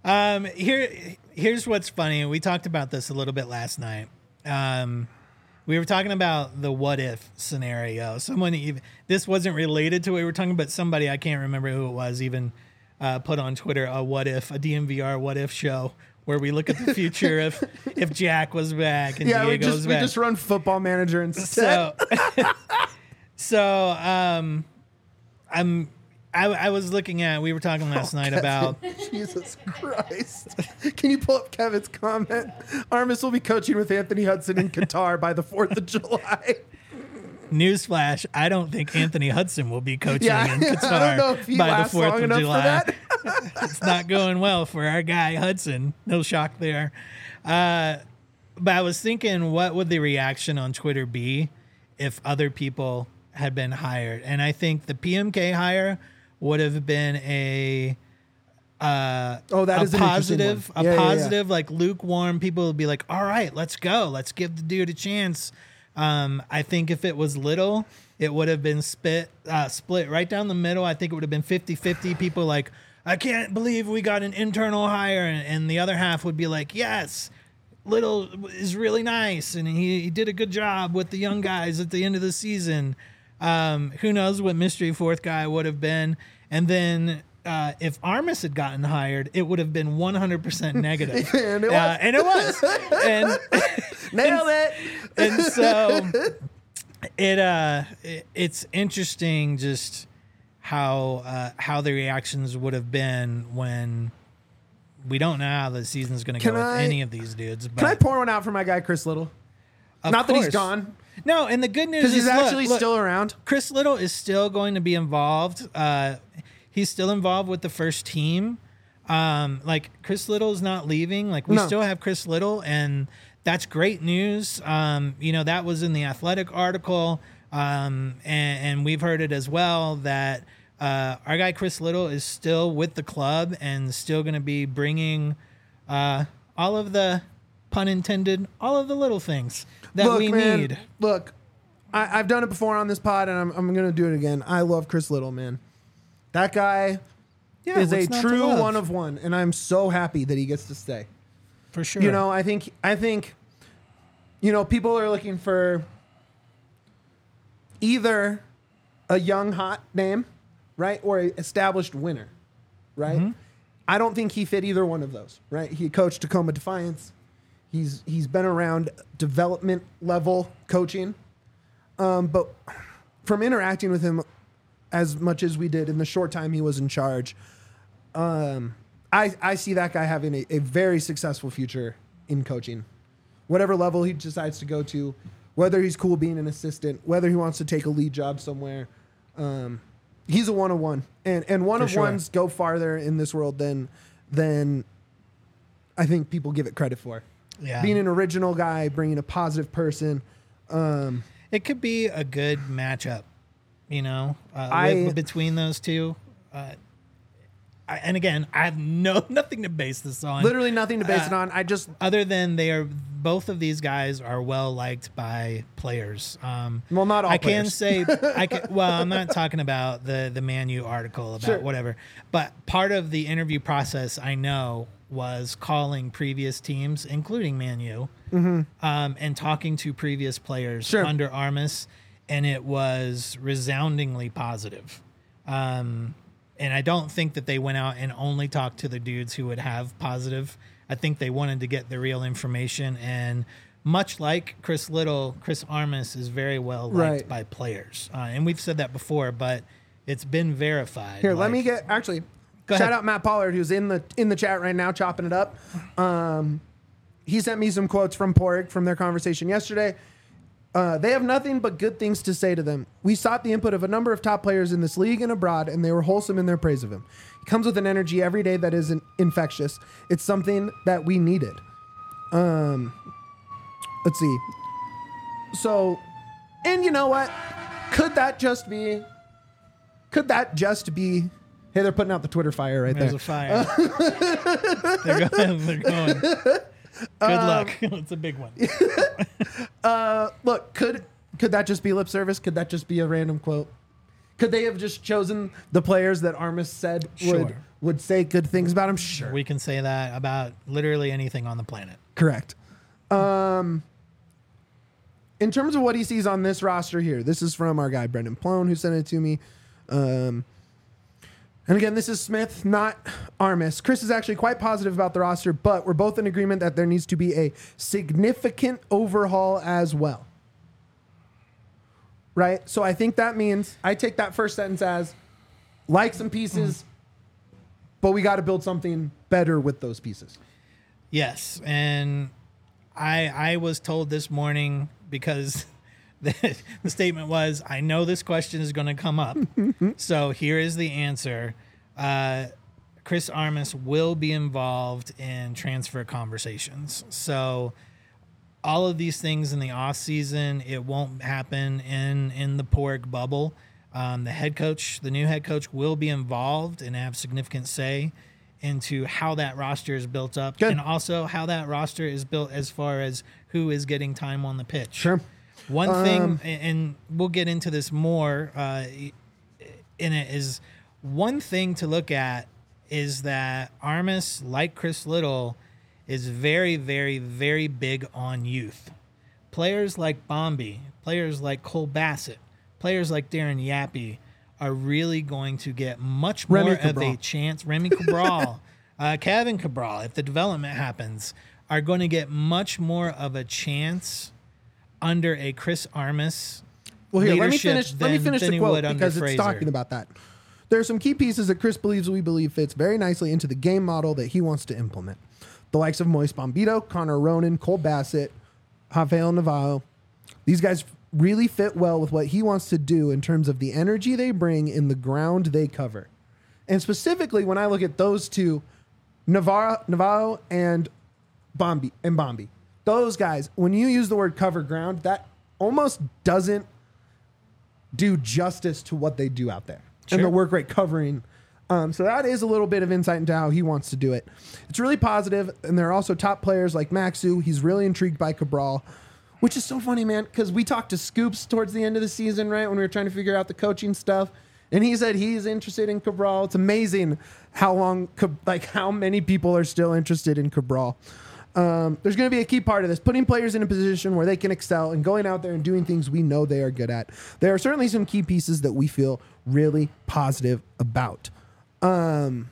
Here's what's funny. We talked about this a little bit last night. we were talking about the what if scenario. This wasn't related to what we were talking about. Somebody, I can't remember who it was, even put on Twitter a DMVR what if show where we look at the future if Jack was back and Diego was back. We just run Football Manager instead. I was looking at, we were talking last night about... Jesus Christ. Can you pull up Kevin's comment? Armas will be coaching with Anthony Hudson in Qatar by the 4th of July. Newsflash, I don't think Anthony Hudson will be coaching in Qatar I don't know if he by the 4th of July. It's not going well for our guy Hudson. No shock there. But I was thinking, what would the reaction on Twitter be if other people had been hired? And I think the PMK hire would have been a positive, like lukewarm. People would be like, all right, let's go. Let's give the dude a chance. I think if it was Little, it would have been split right down the middle. I think it would have been 50-50. People like, I can't believe we got an internal hire. And the other half would be like, yes, Little is really nice. And he did a good job with the young guys at the end of the season. Who knows what mystery fourth guy would have been. And then if Armas had gotten hired, it would have been 100% negative. And it was. And nailed it. And so it's interesting just how the reactions would have been when we don't know how the season's going to go with any of these dudes. But can I pour one out for my guy Chris Little? Not that he's gone. No, and the good news because is he's actually still around. Chris Little is still going to be involved. He's still involved with the first team. Like Chris Little is not leaving. Like we still have Chris Little, and that's great news. That was in the Athletic article, and we've heard it as well that our guy Chris Little is still with the club and still going to be bringing all of the, pun intended, all of the little things that we need. Look, I've done it before on this pod, and I'm going to do it again. I love Chris Little, man. That guy is a true one of one, and I'm so happy that he gets to stay. For sure. I think people are looking for either a young hot name, right, or an established winner, right? Mm-hmm. I don't think he fit either one of those, right? He coached Tacoma Defiance. He's been around development level coaching, but from interacting with him as much as we did in the short time he was in charge, I see that guy having a very successful future in coaching, whatever level he decides to go to, whether he's cool being an assistant, whether he wants to take a lead job somewhere. He's a one-of-one, and one-of-ones go farther in this world than I think people give it credit for. Yeah. Being an original guy, bringing a positive person. It could be a good matchup, between those two. And again, I have nothing to base this on. Literally nothing to base it on. Other than both of these guys are well liked by players. Well, not all. I'm not talking about the Man U article about whatever, but part of the interview process I know was calling previous teams, including Man U, and talking to previous players under Armas, and it was resoundingly positive. And I don't think that they went out and only talked to the dudes who would have positive. I think they wanted to get the real information. And much like Chris Little, Chris Armas is very well liked by players. And we've said that before, but it's been verified. Here, let me get shout out Matt Pollard, who's in the chat right now, chopping it up. He sent me some quotes from Porig from their conversation yesterday. They have nothing but good things to say to them. We sought the input of a number of top players in this league and abroad, and they were wholesome in their praise of him. He comes with an energy every day that is infectious. It's something that we needed. Let's see. So, and you know what? Could that just be... Hey, they're putting out the Twitter fire right there. There's a fire. They're going. Good luck. It's a big one. Look, could that just be lip service? Could that just be a random quote? Could they have just chosen the players that Armas said would say good things about him? Sure. We can say that about literally anything on the planet. Correct. in terms of what he sees on this roster here, this is from our guy Brendan Plone, who sent it to me. And again, this is Smith, not Armas. Chris is actually quite positive about the roster, but we're both in agreement that there needs to be a significant overhaul as well. Right? So I think that means, I take that first sentence as, like some pieces, but we got to build something better with those pieces. Yes, and I was told this morning, because the statement was, I know this question is going to come up, so here is the answer. Chris Armas will be involved in transfer conversations. So all of these things in the off season, it won't happen in the Pork bubble. The new head coach will be involved and have significant say into how that roster is built up. Good. And also how that roster is built as far as who is getting time on the pitch. Sure. One thing, and we'll get into this more in it, is one thing to look at is that Armas, like Chris Little, is very, very, very big on youth. Players like Bombi, players like Cole Bassett, players like Darren Yappy are really going to get much more of a chance. Remy Cabral, Kevin Cabral, if the development happens, are going to get much more of a chance under a Chris Armas Well, here, let me leadership finish than the he quote would under because it's Fraser. talking about that. There are some key pieces that Chris we believe fits very nicely into the game model that he wants to implement. The likes of Moise Bombito, Connor Ronan, Cole Bassett, Rafael Navarro. These guys really fit well with what he wants to do in terms of the energy they bring in the ground they cover. And specifically, when I look at those two, Navarro and Bombi, those guys, when you use the word cover ground, that almost doesn't do justice to what they do out there and the work rate covering. So that is a little bit of insight into how he wants to do it. It's really positive, and there are also top players like Maxu. He's really intrigued by Cabral, which is so funny, man, because we talked to Scoops towards the end of the season, right, when we were trying to figure out the coaching stuff, and he said he's interested in Cabral. It's amazing how many people are still interested in Cabral. There's going to be a key part of this, putting players in a position where they can excel and going out there and doing things we know they are good at. There are certainly some key pieces that we feel really positive about. To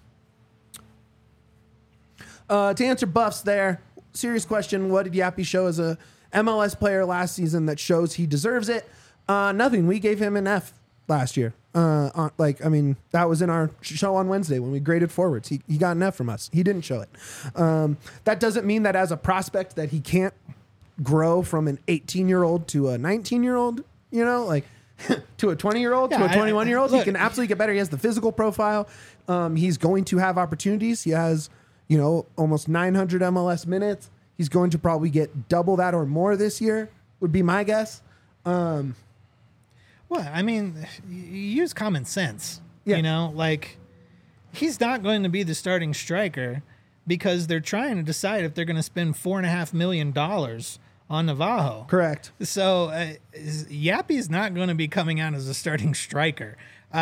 answer Buffs there, serious question. What did Yappy show as a MLS player last season that shows he deserves it? Nothing. We gave him an F last year. That was in our show on Wednesday when we graded forwards. He got an F from us. He didn't show it. That doesn't mean that as a prospect that he can't grow from an 18-year-old to a 19-year-old, to a 20-year-old, to a 21-year-old. He can absolutely get better. He has the physical profile. He's going to have opportunities. He has, almost 900 MLS minutes. He's going to probably get double that or more this year, would be my guess. Well, I mean, you use common sense. Yeah. He's not going to be the starting striker because they're trying to decide if they're going to spend $4.5 million on Navajo. Correct. So Yappy's not going to be coming out as a starting striker.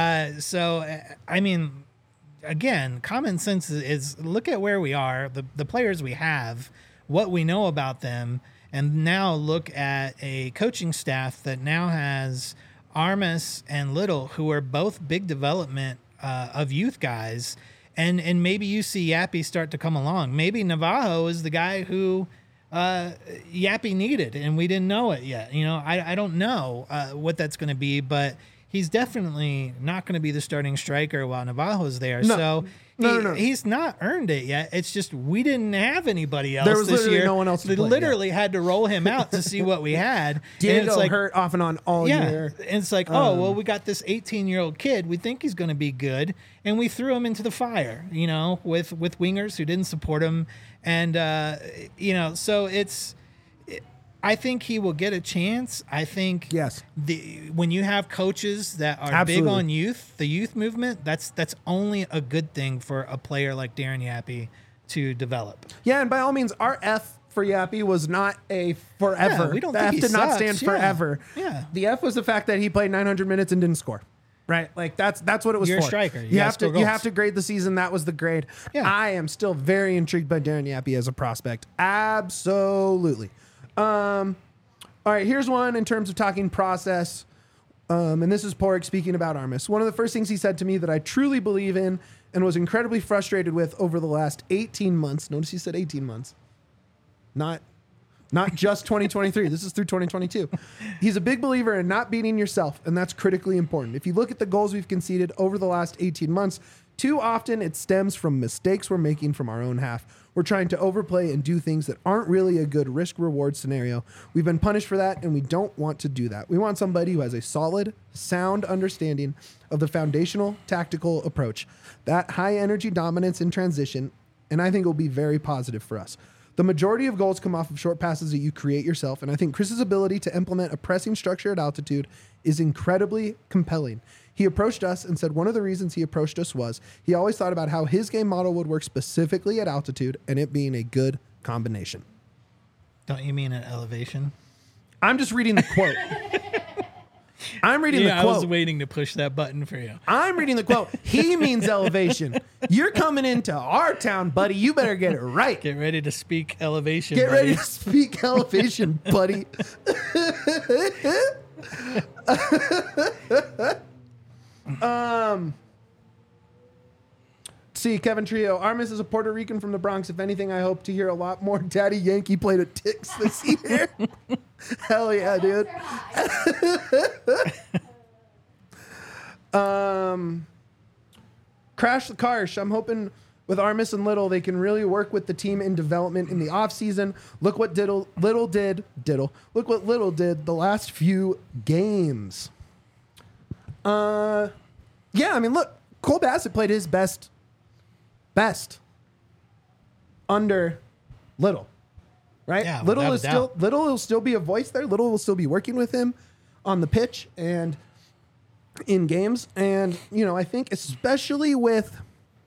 Again, common sense is look at where we are, the players we have, what we know about them, and now look at a coaching staff that now has Armas and Little, who are both big development of youth guys, and maybe you see Yappy start to come along. Maybe Navajo is the guy who Yappy needed, and we didn't know it yet. I don't know what that's going to be, but he's definitely not going to be the starting striker while Navajo's there. No. So he's not earned it yet. It's just we didn't have anybody else There was this literally year. no one else to They play, literally had to roll him out to see what we had. Diego hurt off and on all year. And it's like, we got this 18-year-old kid. We think he's going to be good, and we threw him into the fire, with wingers who didn't support him. And, so it's – I think he will get a chance. I think yes. When you have coaches that are Absolutely. big on youth, the youth movement, that's only a good thing for a player like Darren Yappy to develop. Yeah, and by all means, our F for Yappy was not a forever. Yeah, we don't the think F he did not sucks. stand forever. Yeah. The F was the fact that he played 900 minutes and didn't score. Right? That's what it was You're for. a striker. You have score to goals. you have to grade the season. That was the grade. Yeah. I am still very intrigued by Darren Yappy as a prospect. Absolutely. All right, here's one in terms of talking process. And this is Porg speaking about Armis. One of the first things he said to me that I truly believe in and was incredibly frustrated with over the last 18 months. Notice he said 18 months. Not just 2023. This is through 2022. He's a big believer in not beating yourself, and that's critically important. If you look at the goals we've conceded over the last 18 months, too often it stems from mistakes we're making from our own half. We're trying to overplay and do things that aren't really a good risk-reward scenario. We've been punished for that, and we don't want to do that. We want somebody who has a solid, sound understanding of the foundational tactical approach. That high-energy dominance in transition, and I think it will be very positive for us. The majority of goals come off of short passes that you create yourself, and I think Chris's ability to implement a pressing structure at altitude is incredibly compelling. He approached us and said one of the reasons he approached us was he always thought about how his game model would work specifically at altitude and it being a good combination. Don't you mean at elevation? I'm just reading the quote. I'm reading the quote. I was waiting to push that button for you. I'm reading the quote. He means elevation. You're coming into our town, buddy. You better get it right. Get ready to speak elevation, Get buddy. ready to speak elevation, buddy. See, Kevin Trio. Armis is a Puerto Rican from the Bronx. If anything, I hope to hear a lot more Daddy Yankee play to Ticks this year. Hell yeah, dude. Crash the Karsh. I'm hoping with Armis and Little, they can really work with the team in development in the offseason. Look what Little did the last few games. Yeah, I mean, look, Cole Bassett played his best under Little, right? Yeah, Little will still be a voice there. Little will still be working with him on the pitch and in games. And, you know, I think especially with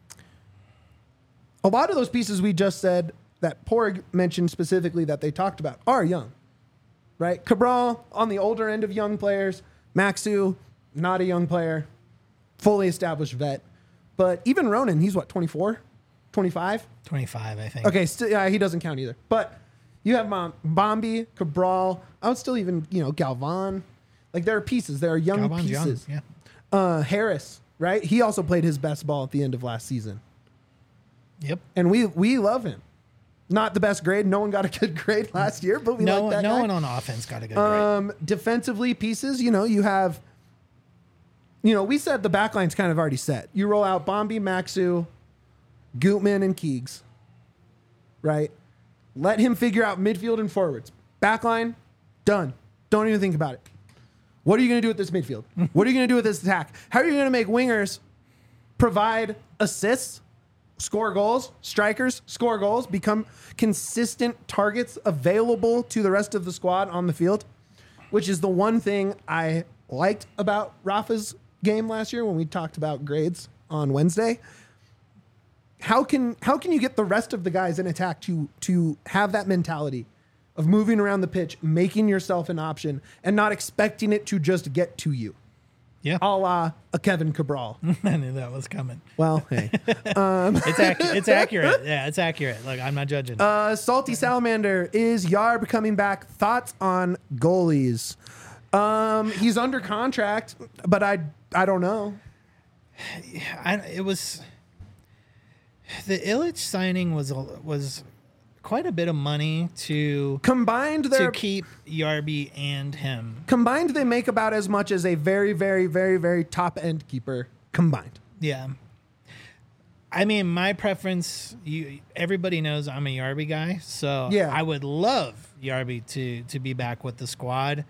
a lot of those pieces we just said that Porg mentioned specifically that they talked about are young, right? Cabral on the older end of young players. Maxu, not a young player, fully established vet. But even Ronan, he's what, 24, 25? 25, I think. Okay, he doesn't count either. But you have Bombi, Cabral. I would still even, Galvan. Like, there are pieces. There are young Galvan's pieces. young, yeah. Harris, right? He also played his best ball at the end of last season. Yep. And we love him. Not the best grade. No one got a good grade last year, but we like that guy. No one on offense got a good grade. Defensively pieces, you have... we said the backline's kind of already set. You roll out Bombi, Maxu, Gutman, and Keegs, right? Let him figure out midfield and forwards. Backline, done. Don't even think about it. What are you going to do with this midfield? What are you going to do with this attack? How are you going to make wingers provide assists, score goals, strikers, score goals, become consistent targets available to the rest of the squad on the field, which is the one thing I liked about Rafa's game last year when we talked about grades on Wednesday. How can you get the rest of the guys in attack to have that mentality of moving around the pitch, making yourself an option, and not expecting it to just get to you? Yeah. A la a Kevin Cabral. I knew that was coming. Well, hey. It's accurate. Yeah, it's accurate. Look, I'm not judging. Salty Salamander, is Yarb coming back? Thoughts on goalies? He's under contract, but I don't know. The Illich signing was quite a bit of money to keep Yarby and him. Combined, they make about as much as a very, very, very, very top end keeper combined. Yeah. I mean, my preference, everybody knows I'm a Yarby guy, so yeah. I would love Yarby to be back with the squad.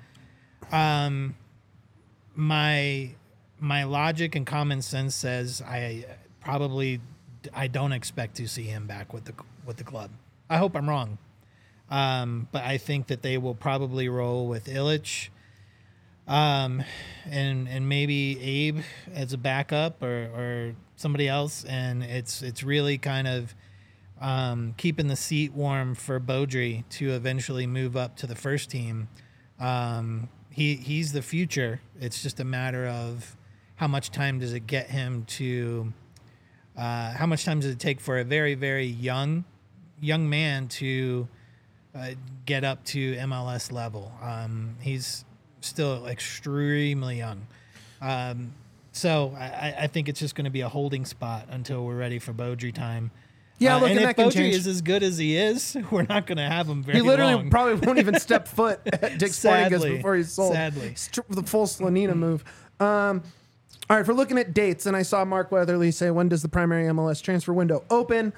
My logic and common sense says I don't expect to see him back with the club. I hope I'm wrong, but I think that they will probably roll with Illich, and maybe Abe as a backup or somebody else, and it's really kind of keeping the seat warm for Beaudry to eventually move up to the first team. He's the future. It's just a matter of how much time does it get him to. How much time does it take for a very, very young man to get up to MLS level. He's still extremely young. So I think it's just going to be a holding spot until we're ready for Beaudry time. Yeah, look, and if that can Beaudry change. is as good as he is, we're not going to have him very He literally long. probably won't even step foot at Dick's Sporting Goods Sadly. before he's sold. Sadly. The full Slanina move. All right, if we're looking at dates, and I saw Mark Weatherly say, when does the primary MLS transfer window open?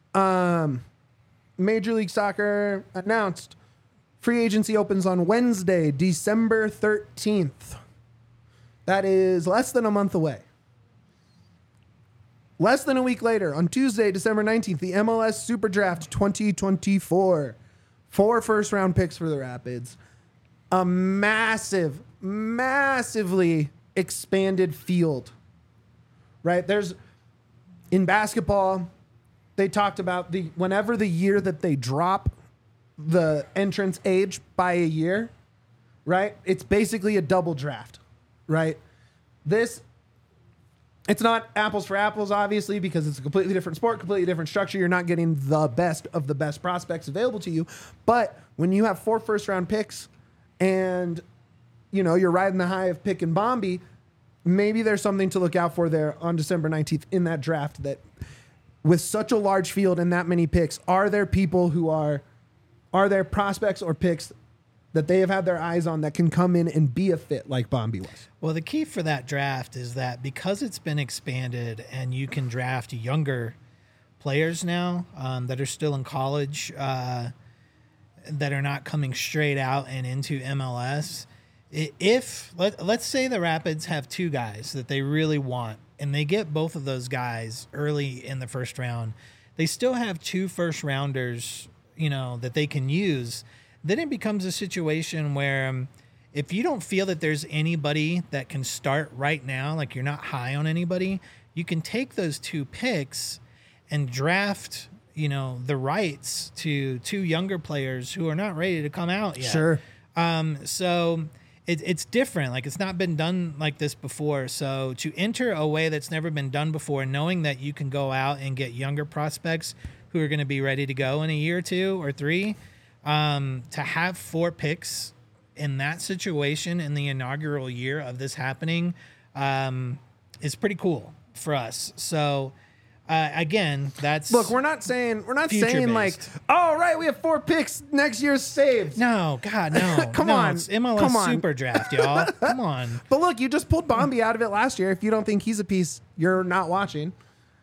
Major League Soccer announced free agency opens on Wednesday, December 13th. That is less than a month away. Less than a week later, on Tuesday, December 19th, the MLS Super Draft 2024. 4 first-round picks for the Rapids. A massively expanded field. Right? In basketball, they talked about whenever the year that they drop the entrance age by a year, right? It's basically a double draft, right? It's not apples for apples, obviously, because it's a completely different sport, completely different structure. You're not getting the best of the best prospects available to you. But when you have 4 first-round picks and, you're riding the high of Pick and Bombi, maybe there's something to look out for there on December 19th in that draft that with such a large field and that many picks, are there prospects or picks that they have had their eyes on that can come in and be a fit like Bombi was? Well, the key for that draft is that because it's been expanded and you can draft younger players now that are still in college, that are not coming straight out and into MLS. Let's say the Rapids have 2 guys that they really want, and they get both of those guys early in the first round, they still have 2 first rounders, that they can use. Then it becomes a situation where if you don't feel that there's anybody that can start right now, like you're not high on anybody, you can take those 2 picks and draft, the rights to 2 younger players who are not ready to come out yet. Sure. So it's different. Like, it's not been done like this before. So to enter a way that's never been done before, knowing that you can go out and get younger prospects who are going to be ready to go in a year or 2 or 3, to have 4 picks in that situation in the inaugural year of this happening is pretty cool for us. So again, that's Look, we're not saying like, future-based. oh, right, we have 4 picks, next year's saved. no, God, no. Come No, on. it's MLS Come on. Super Draft, y'all. Come on. But look, you just pulled Bombi out of it last year. If you don't think he's a piece, you're not watching.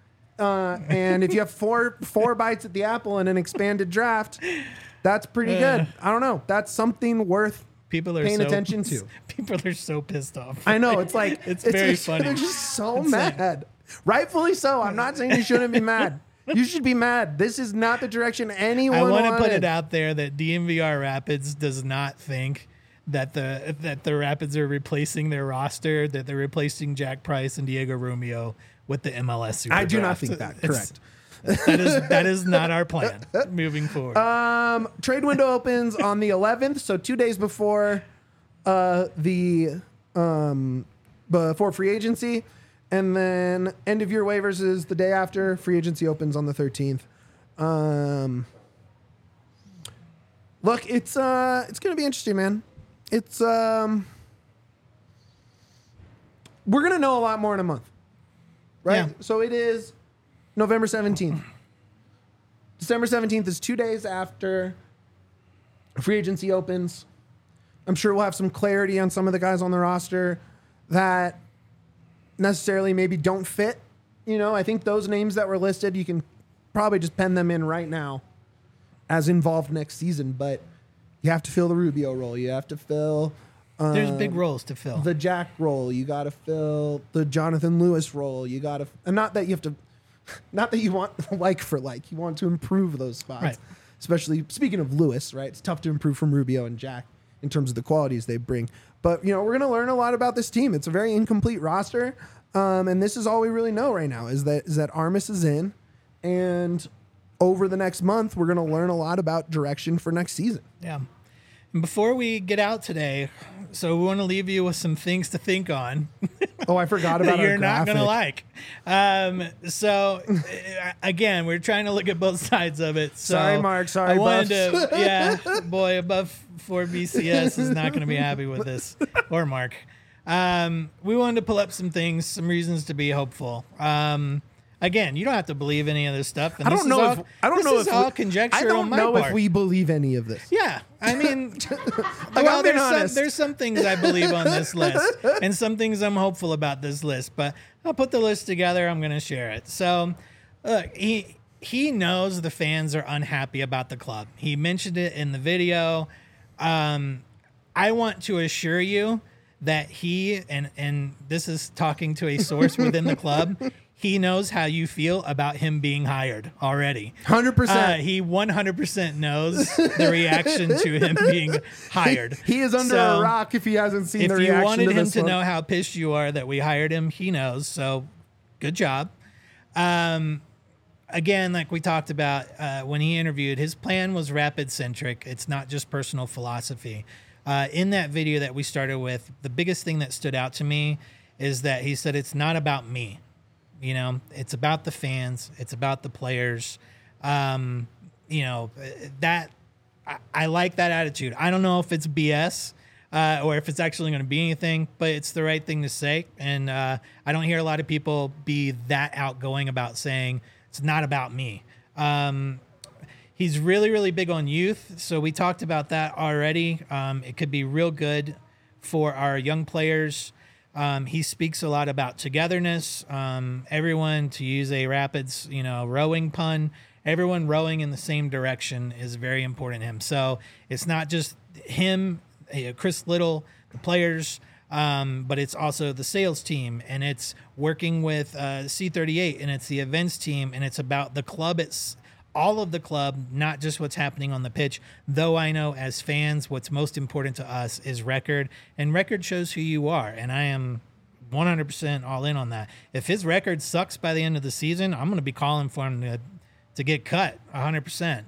And if you have four bites at the apple in an expanded draft, that's pretty good. I don't know. That's something worth People are paying so, attention to. People are so pissed off. I know. It's like It's very just, funny. They're just so It's like- mad. Rightfully so. I'm not saying you shouldn't be mad. You should be mad. This is not the direction anyone I want to wanted. put it out there that DMVR Rapids does not think that the Rapids are replacing their roster, that they're replacing Jack Price and Diego Romeo with the MLS Super I do not Draft. think that. It's- Correct. That is not our plan moving forward. Trade window opens on the 11th, so 2 days before before free agency, and then end of year waivers is the day after. Free agency opens on the 13th. Look, it's gonna be interesting, man. It's we're gonna know a lot more in a month, right? Yeah. So it is November 17th. December 17th is 2 days after free agency opens. I'm sure we'll have some clarity on some of the guys on the roster that necessarily maybe don't fit. I think those names that were listed, you can probably just pen them in right now as involved next season. But you have to fill the Rubio role. You have to fill There's big roles to fill. the Jack role. You got to fill the Jonathan Lewis role. You got to, and not that you have to, not that you want like for like. You want to improve those spots. Right. Especially speaking of Lewis, right? It's tough to improve from Rubio and Jack in terms of the qualities they bring. But we're going to learn a lot about this team. It's a very incomplete roster, and this is all we really know right now is that Armas is in, and over the next month we're going to learn a lot about direction for next season. Yeah. And before we get out today, So we want to leave you with some things to think on. Oh, I forgot about that you're our not graphic. going to like. So again, we're trying to look at both sides of it. So Sorry, Mark. Sorry, I wanted Buffs. to, yeah, boy, above 4 BCS is not going to be happy with this, or Mark. We wanted to pull up some things, some reasons to be hopeful. Again, you don't have to believe any of this stuff. And I this don't is know all, if I don't this know is if all we, conjecture I don't on my know part. if we believe any of this. Yeah, I mean, I'm well, being honest. there's some things I believe on this list, and some things I'm hopeful about this list. But I'll put the list together. I'm going to share it. So, look, he knows the fans are unhappy about the club. He mentioned it in the video. I want to assure you that he and this is talking to a source within the club. He knows how you feel about him being hired already. 100%. He 100% knows the reaction to him being hired. He is under So, a rock if he hasn't seen if the you reaction wanted to him this to one. know how pissed you are that we hired him, he knows. So good job. Again, like we talked about when he interviewed, his plan was rapid centric. It's not just personal philosophy. In that video that we started with, the biggest thing that stood out to me is that he said, it's not about me. You know, it's about the fans. It's about the players. You know, that I like that attitude. I don't know if it's BS or if it's actually going to be anything, but it's the right thing to say. And I don't hear a lot of people be that outgoing about saying it's not about me. He's really, really big on youth. So we talked about that already. It could be real good for our young players. He speaks a lot about togetherness. Everyone, to use a Rapids, rowing pun, everyone rowing in the same direction is very important to him. So it's not just him, Chris Little, the players, but it's also the sales team, and it's working with C38, and it's the events team, and it's about the club. It's all of the club, not just what's happening on the pitch. Though I know as fans, what's most important to us is record, and record shows who you are. And I am 100% all in on that. If his record sucks by the end of the season, I'm going to be calling for him to get cut 100%.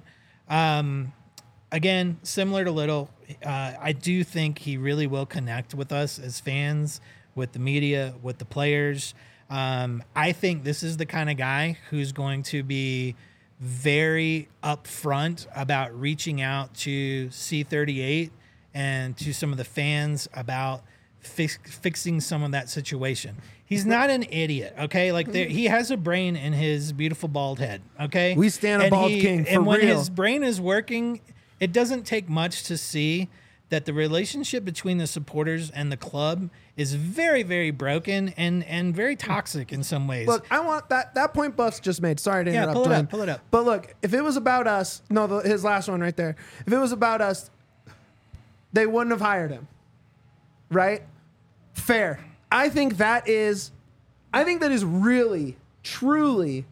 Again, similar to Little, I do think he really will connect with us as fans, with the media, with the players. I think this is the kind of guy who's going to be very upfront about reaching out to C38 and to some of the fans about fixing some of that situation. He's not an idiot, okay? Like he has a brain in his beautiful bald head, okay? We stand a bald king for and when real. his brain is working, it doesn't take much to see that the relationship between the supporters and the club is very, very broken and very toxic in some ways. Look, I want that point Buffs just made. Sorry to interrupt. Pull it up. But look, if it was about us, his last one right there. If it was about us, they wouldn't have hired him. Right? Fair. I think that is really, truly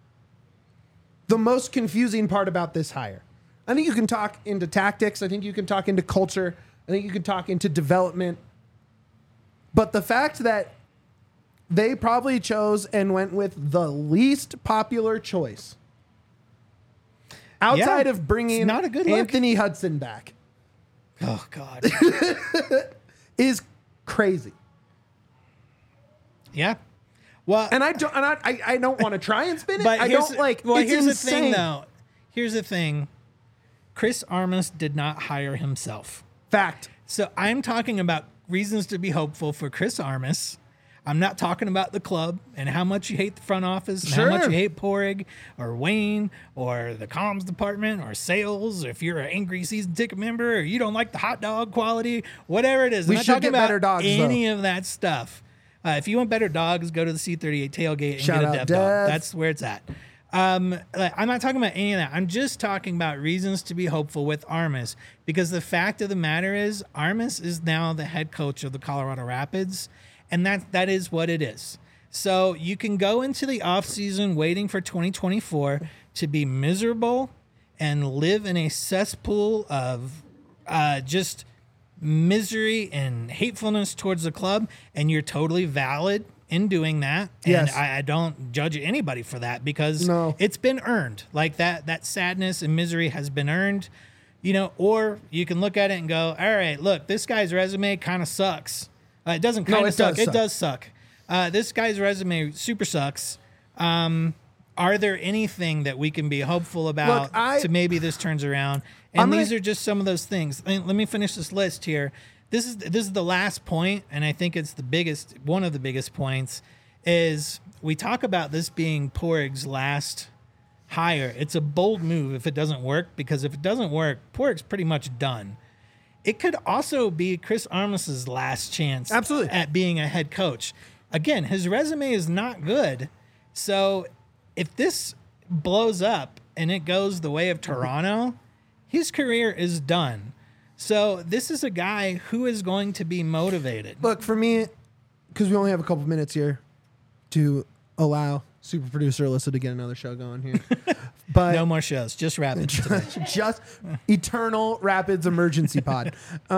the most confusing part about this hire. I think you can talk into tactics. I think you can talk into culture. I think you can talk into development. But the fact that they probably chose and went with the least popular choice outside of bringing not a good look. Anthony Hudson back Oh, God. is crazy. Yeah. Well, And I don't want to try and spin it. but I don't like. Well, it's here's insane. the thing, though. Here's the thing. Chris Armas did not hire himself. Fact. So I'm talking about reasons to be hopeful for Chris Armas. I'm not talking about the club and how much you hate the front office and Sure. how much you hate Porig or Wayne or the comms department or sales. If you're an angry season ticket member or you don't like the hot dog quality, whatever it is. We I'm not should talking get about better dogs, any of that stuff. If you want better dogs, go to the C38 tailgate and Shout get a out Dev Dev. dog. That's where it's at. I'm not talking about any of that. I'm just talking about reasons to be hopeful with Armas, because the fact of the matter is Armas is now the head coach of the Colorado Rapids, and that is what it is. So you can go into the offseason waiting for 2024 to be miserable and live in a cesspool of just misery and hatefulness towards the club, and you're totally valid in doing that. And Yes. I don't judge anybody for that, because No. it's been earned. Like that sadness and misery has been earned. or you can look at it and go, all right, look, this guy's resume kind of sucks. It doesn't kind of suck. It does suck. This guy's resume super sucks. Are there anything that we can be hopeful about to maybe this turns around? And these are just some of those things. Let me finish this list here. This is the last point, and I think it's one of the biggest points, is we talk about this being Pohreg's last hire. It's a bold move if it doesn't work, because if it doesn't work, Pohreg's pretty much done. It could also be Chris Armas's last chance at being a head coach. Again, his resume is not good. So if this blows up and it goes the way of Toronto, his career is done. So this is a guy who is going to be motivated. Look, for me, because we only have a couple minutes here to allow super producer Alyssa to get another show going here. But no more shows, just Rapids today. Just eternal Rapids emergency pod.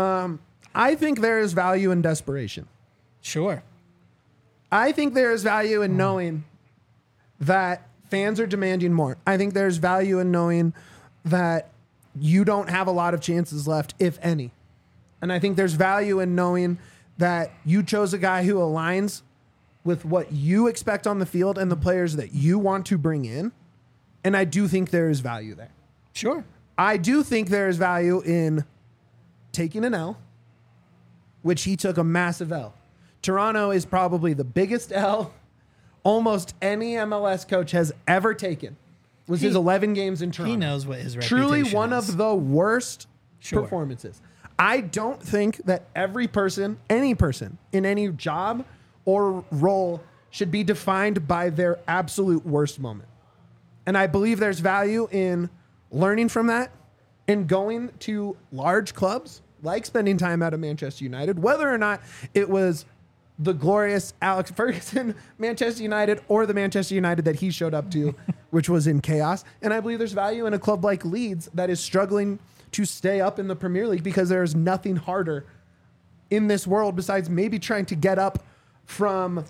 I think there is value in desperation. Sure. I think there is value in knowing that fans are demanding more. I think there's value in knowing that you don't have a lot of chances left, if any. And I think there's value in knowing that you chose a guy who aligns with what you expect on the field and the players that you want to bring in. And I do think there is value there. Sure. I do think there is value in taking an L, which he took a massive L. Toronto is probably the biggest L almost any MLS coach has ever taken. Was his 11 games in Toronto. He knows what his reputation Truly is. one of the worst performances. I don't think that every person, any person in any job or role should be defined by their absolute worst moment. And I believe there's value in learning from that and going to large clubs, like spending time out of Manchester United, whether or not it was the glorious Alex Ferguson Manchester United or the Manchester United that he showed up to, which was in chaos. And I believe there's value in a club like Leeds that is struggling to stay up in the Premier League because there's nothing harder in this world besides maybe trying to get up from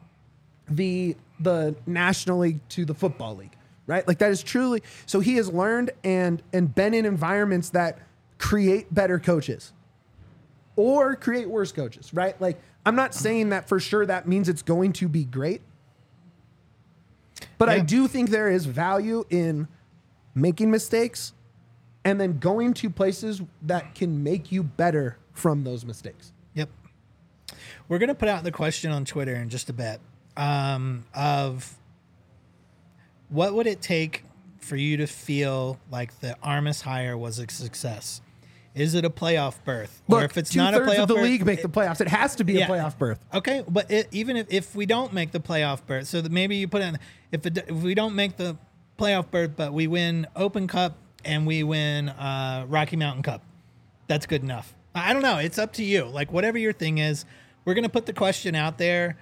the National League to the Football League, right? Like that is truly, so he has learned and been in environments that create better coaches or create worse coaches, right? Like I'm not saying that for sure that means it's going to be great, but I do think there is value in making mistakes and then going to places that can make you better from those mistakes. Yep. We're going to put out the question on Twitter in just a bit of what would it take for you to feel like the Armas hire was a success? Is it a playoff berth? Look, or if it's not a playoff berth, of the league make the playoffs. It has to be a playoff berth. Okay, but even if we don't make the playoff berth, so that maybe you put in if we don't make the playoff berth, but we win Open Cup and we win Rocky Mountain Cup, that's good enough. I don't know. It's up to you. Like whatever your thing is, we're gonna put the question out there.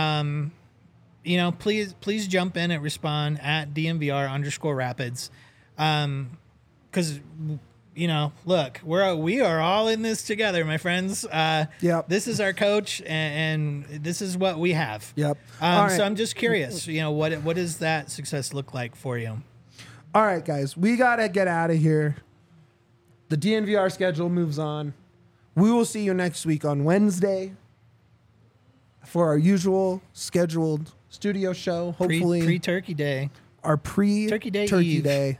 Please jump in and respond at DMVR_Rapids, because. Look, we are all in this together, my friends. Yep. This is our coach, and this is what we have. Yep. So I'm just curious, what does that success look like for you? All right, guys, we got to get out of here. The DNVR schedule moves on. We will see you next week on Wednesday for our usual scheduled studio show. Hopefully, pre-Turkey Day. Our pre-Turkey Day.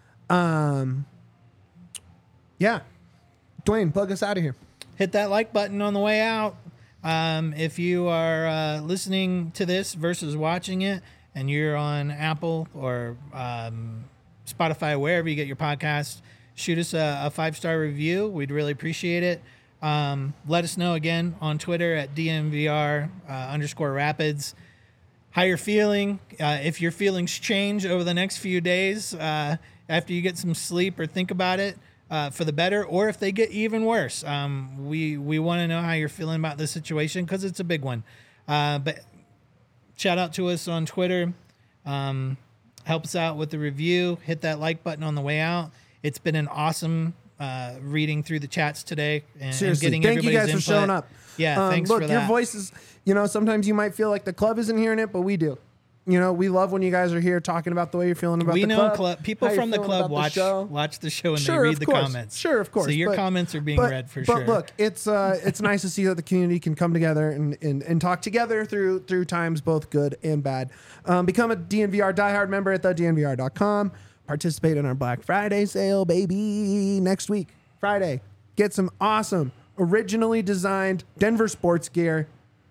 Yeah. Dwayne, plug us out of here. Hit that like button on the way out. If you are listening to this versus watching it and you're on Apple or Spotify, wherever you get your podcasts, shoot us a 5-star review. We'd really appreciate it. Let us know again on Twitter at DMVR_Rapids how you're feeling. If your feelings change over the next few days after you get some sleep or think about it, for the better, or if they get even worse. We want to know how you're feeling about this situation because it's a big one. But shout out to us on Twitter. Help us out with the review. Hit that like button on the way out. It's been an awesome reading through the chats today and getting thank everybody's you guys input. for showing up. Yeah, thanks look, for that. your voices, sometimes you might feel like the club isn't hearing it, but we do. You know, we love when you guys are here talking about the way you're feeling about We the know club. people how you're from the feeling club about the watch the show and Sure, they read of the course. comments. Sure, of course. So your comments are being read for sure. But look, it's nice to see that the community can come together and talk together through times both good and bad. Become a DNVR diehard member at thednvr.com. Participate in our Black Friday sale, baby, next week, Friday. Get some awesome, originally designed Denver sports gear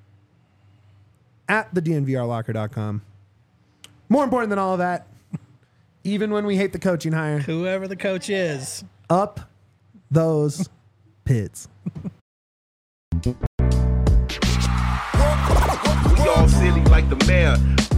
at thednvrlocker.com. More important than all of that, even when we hate the coaching hire, Whoever the coach is. up those pits. We all silly like the mayor.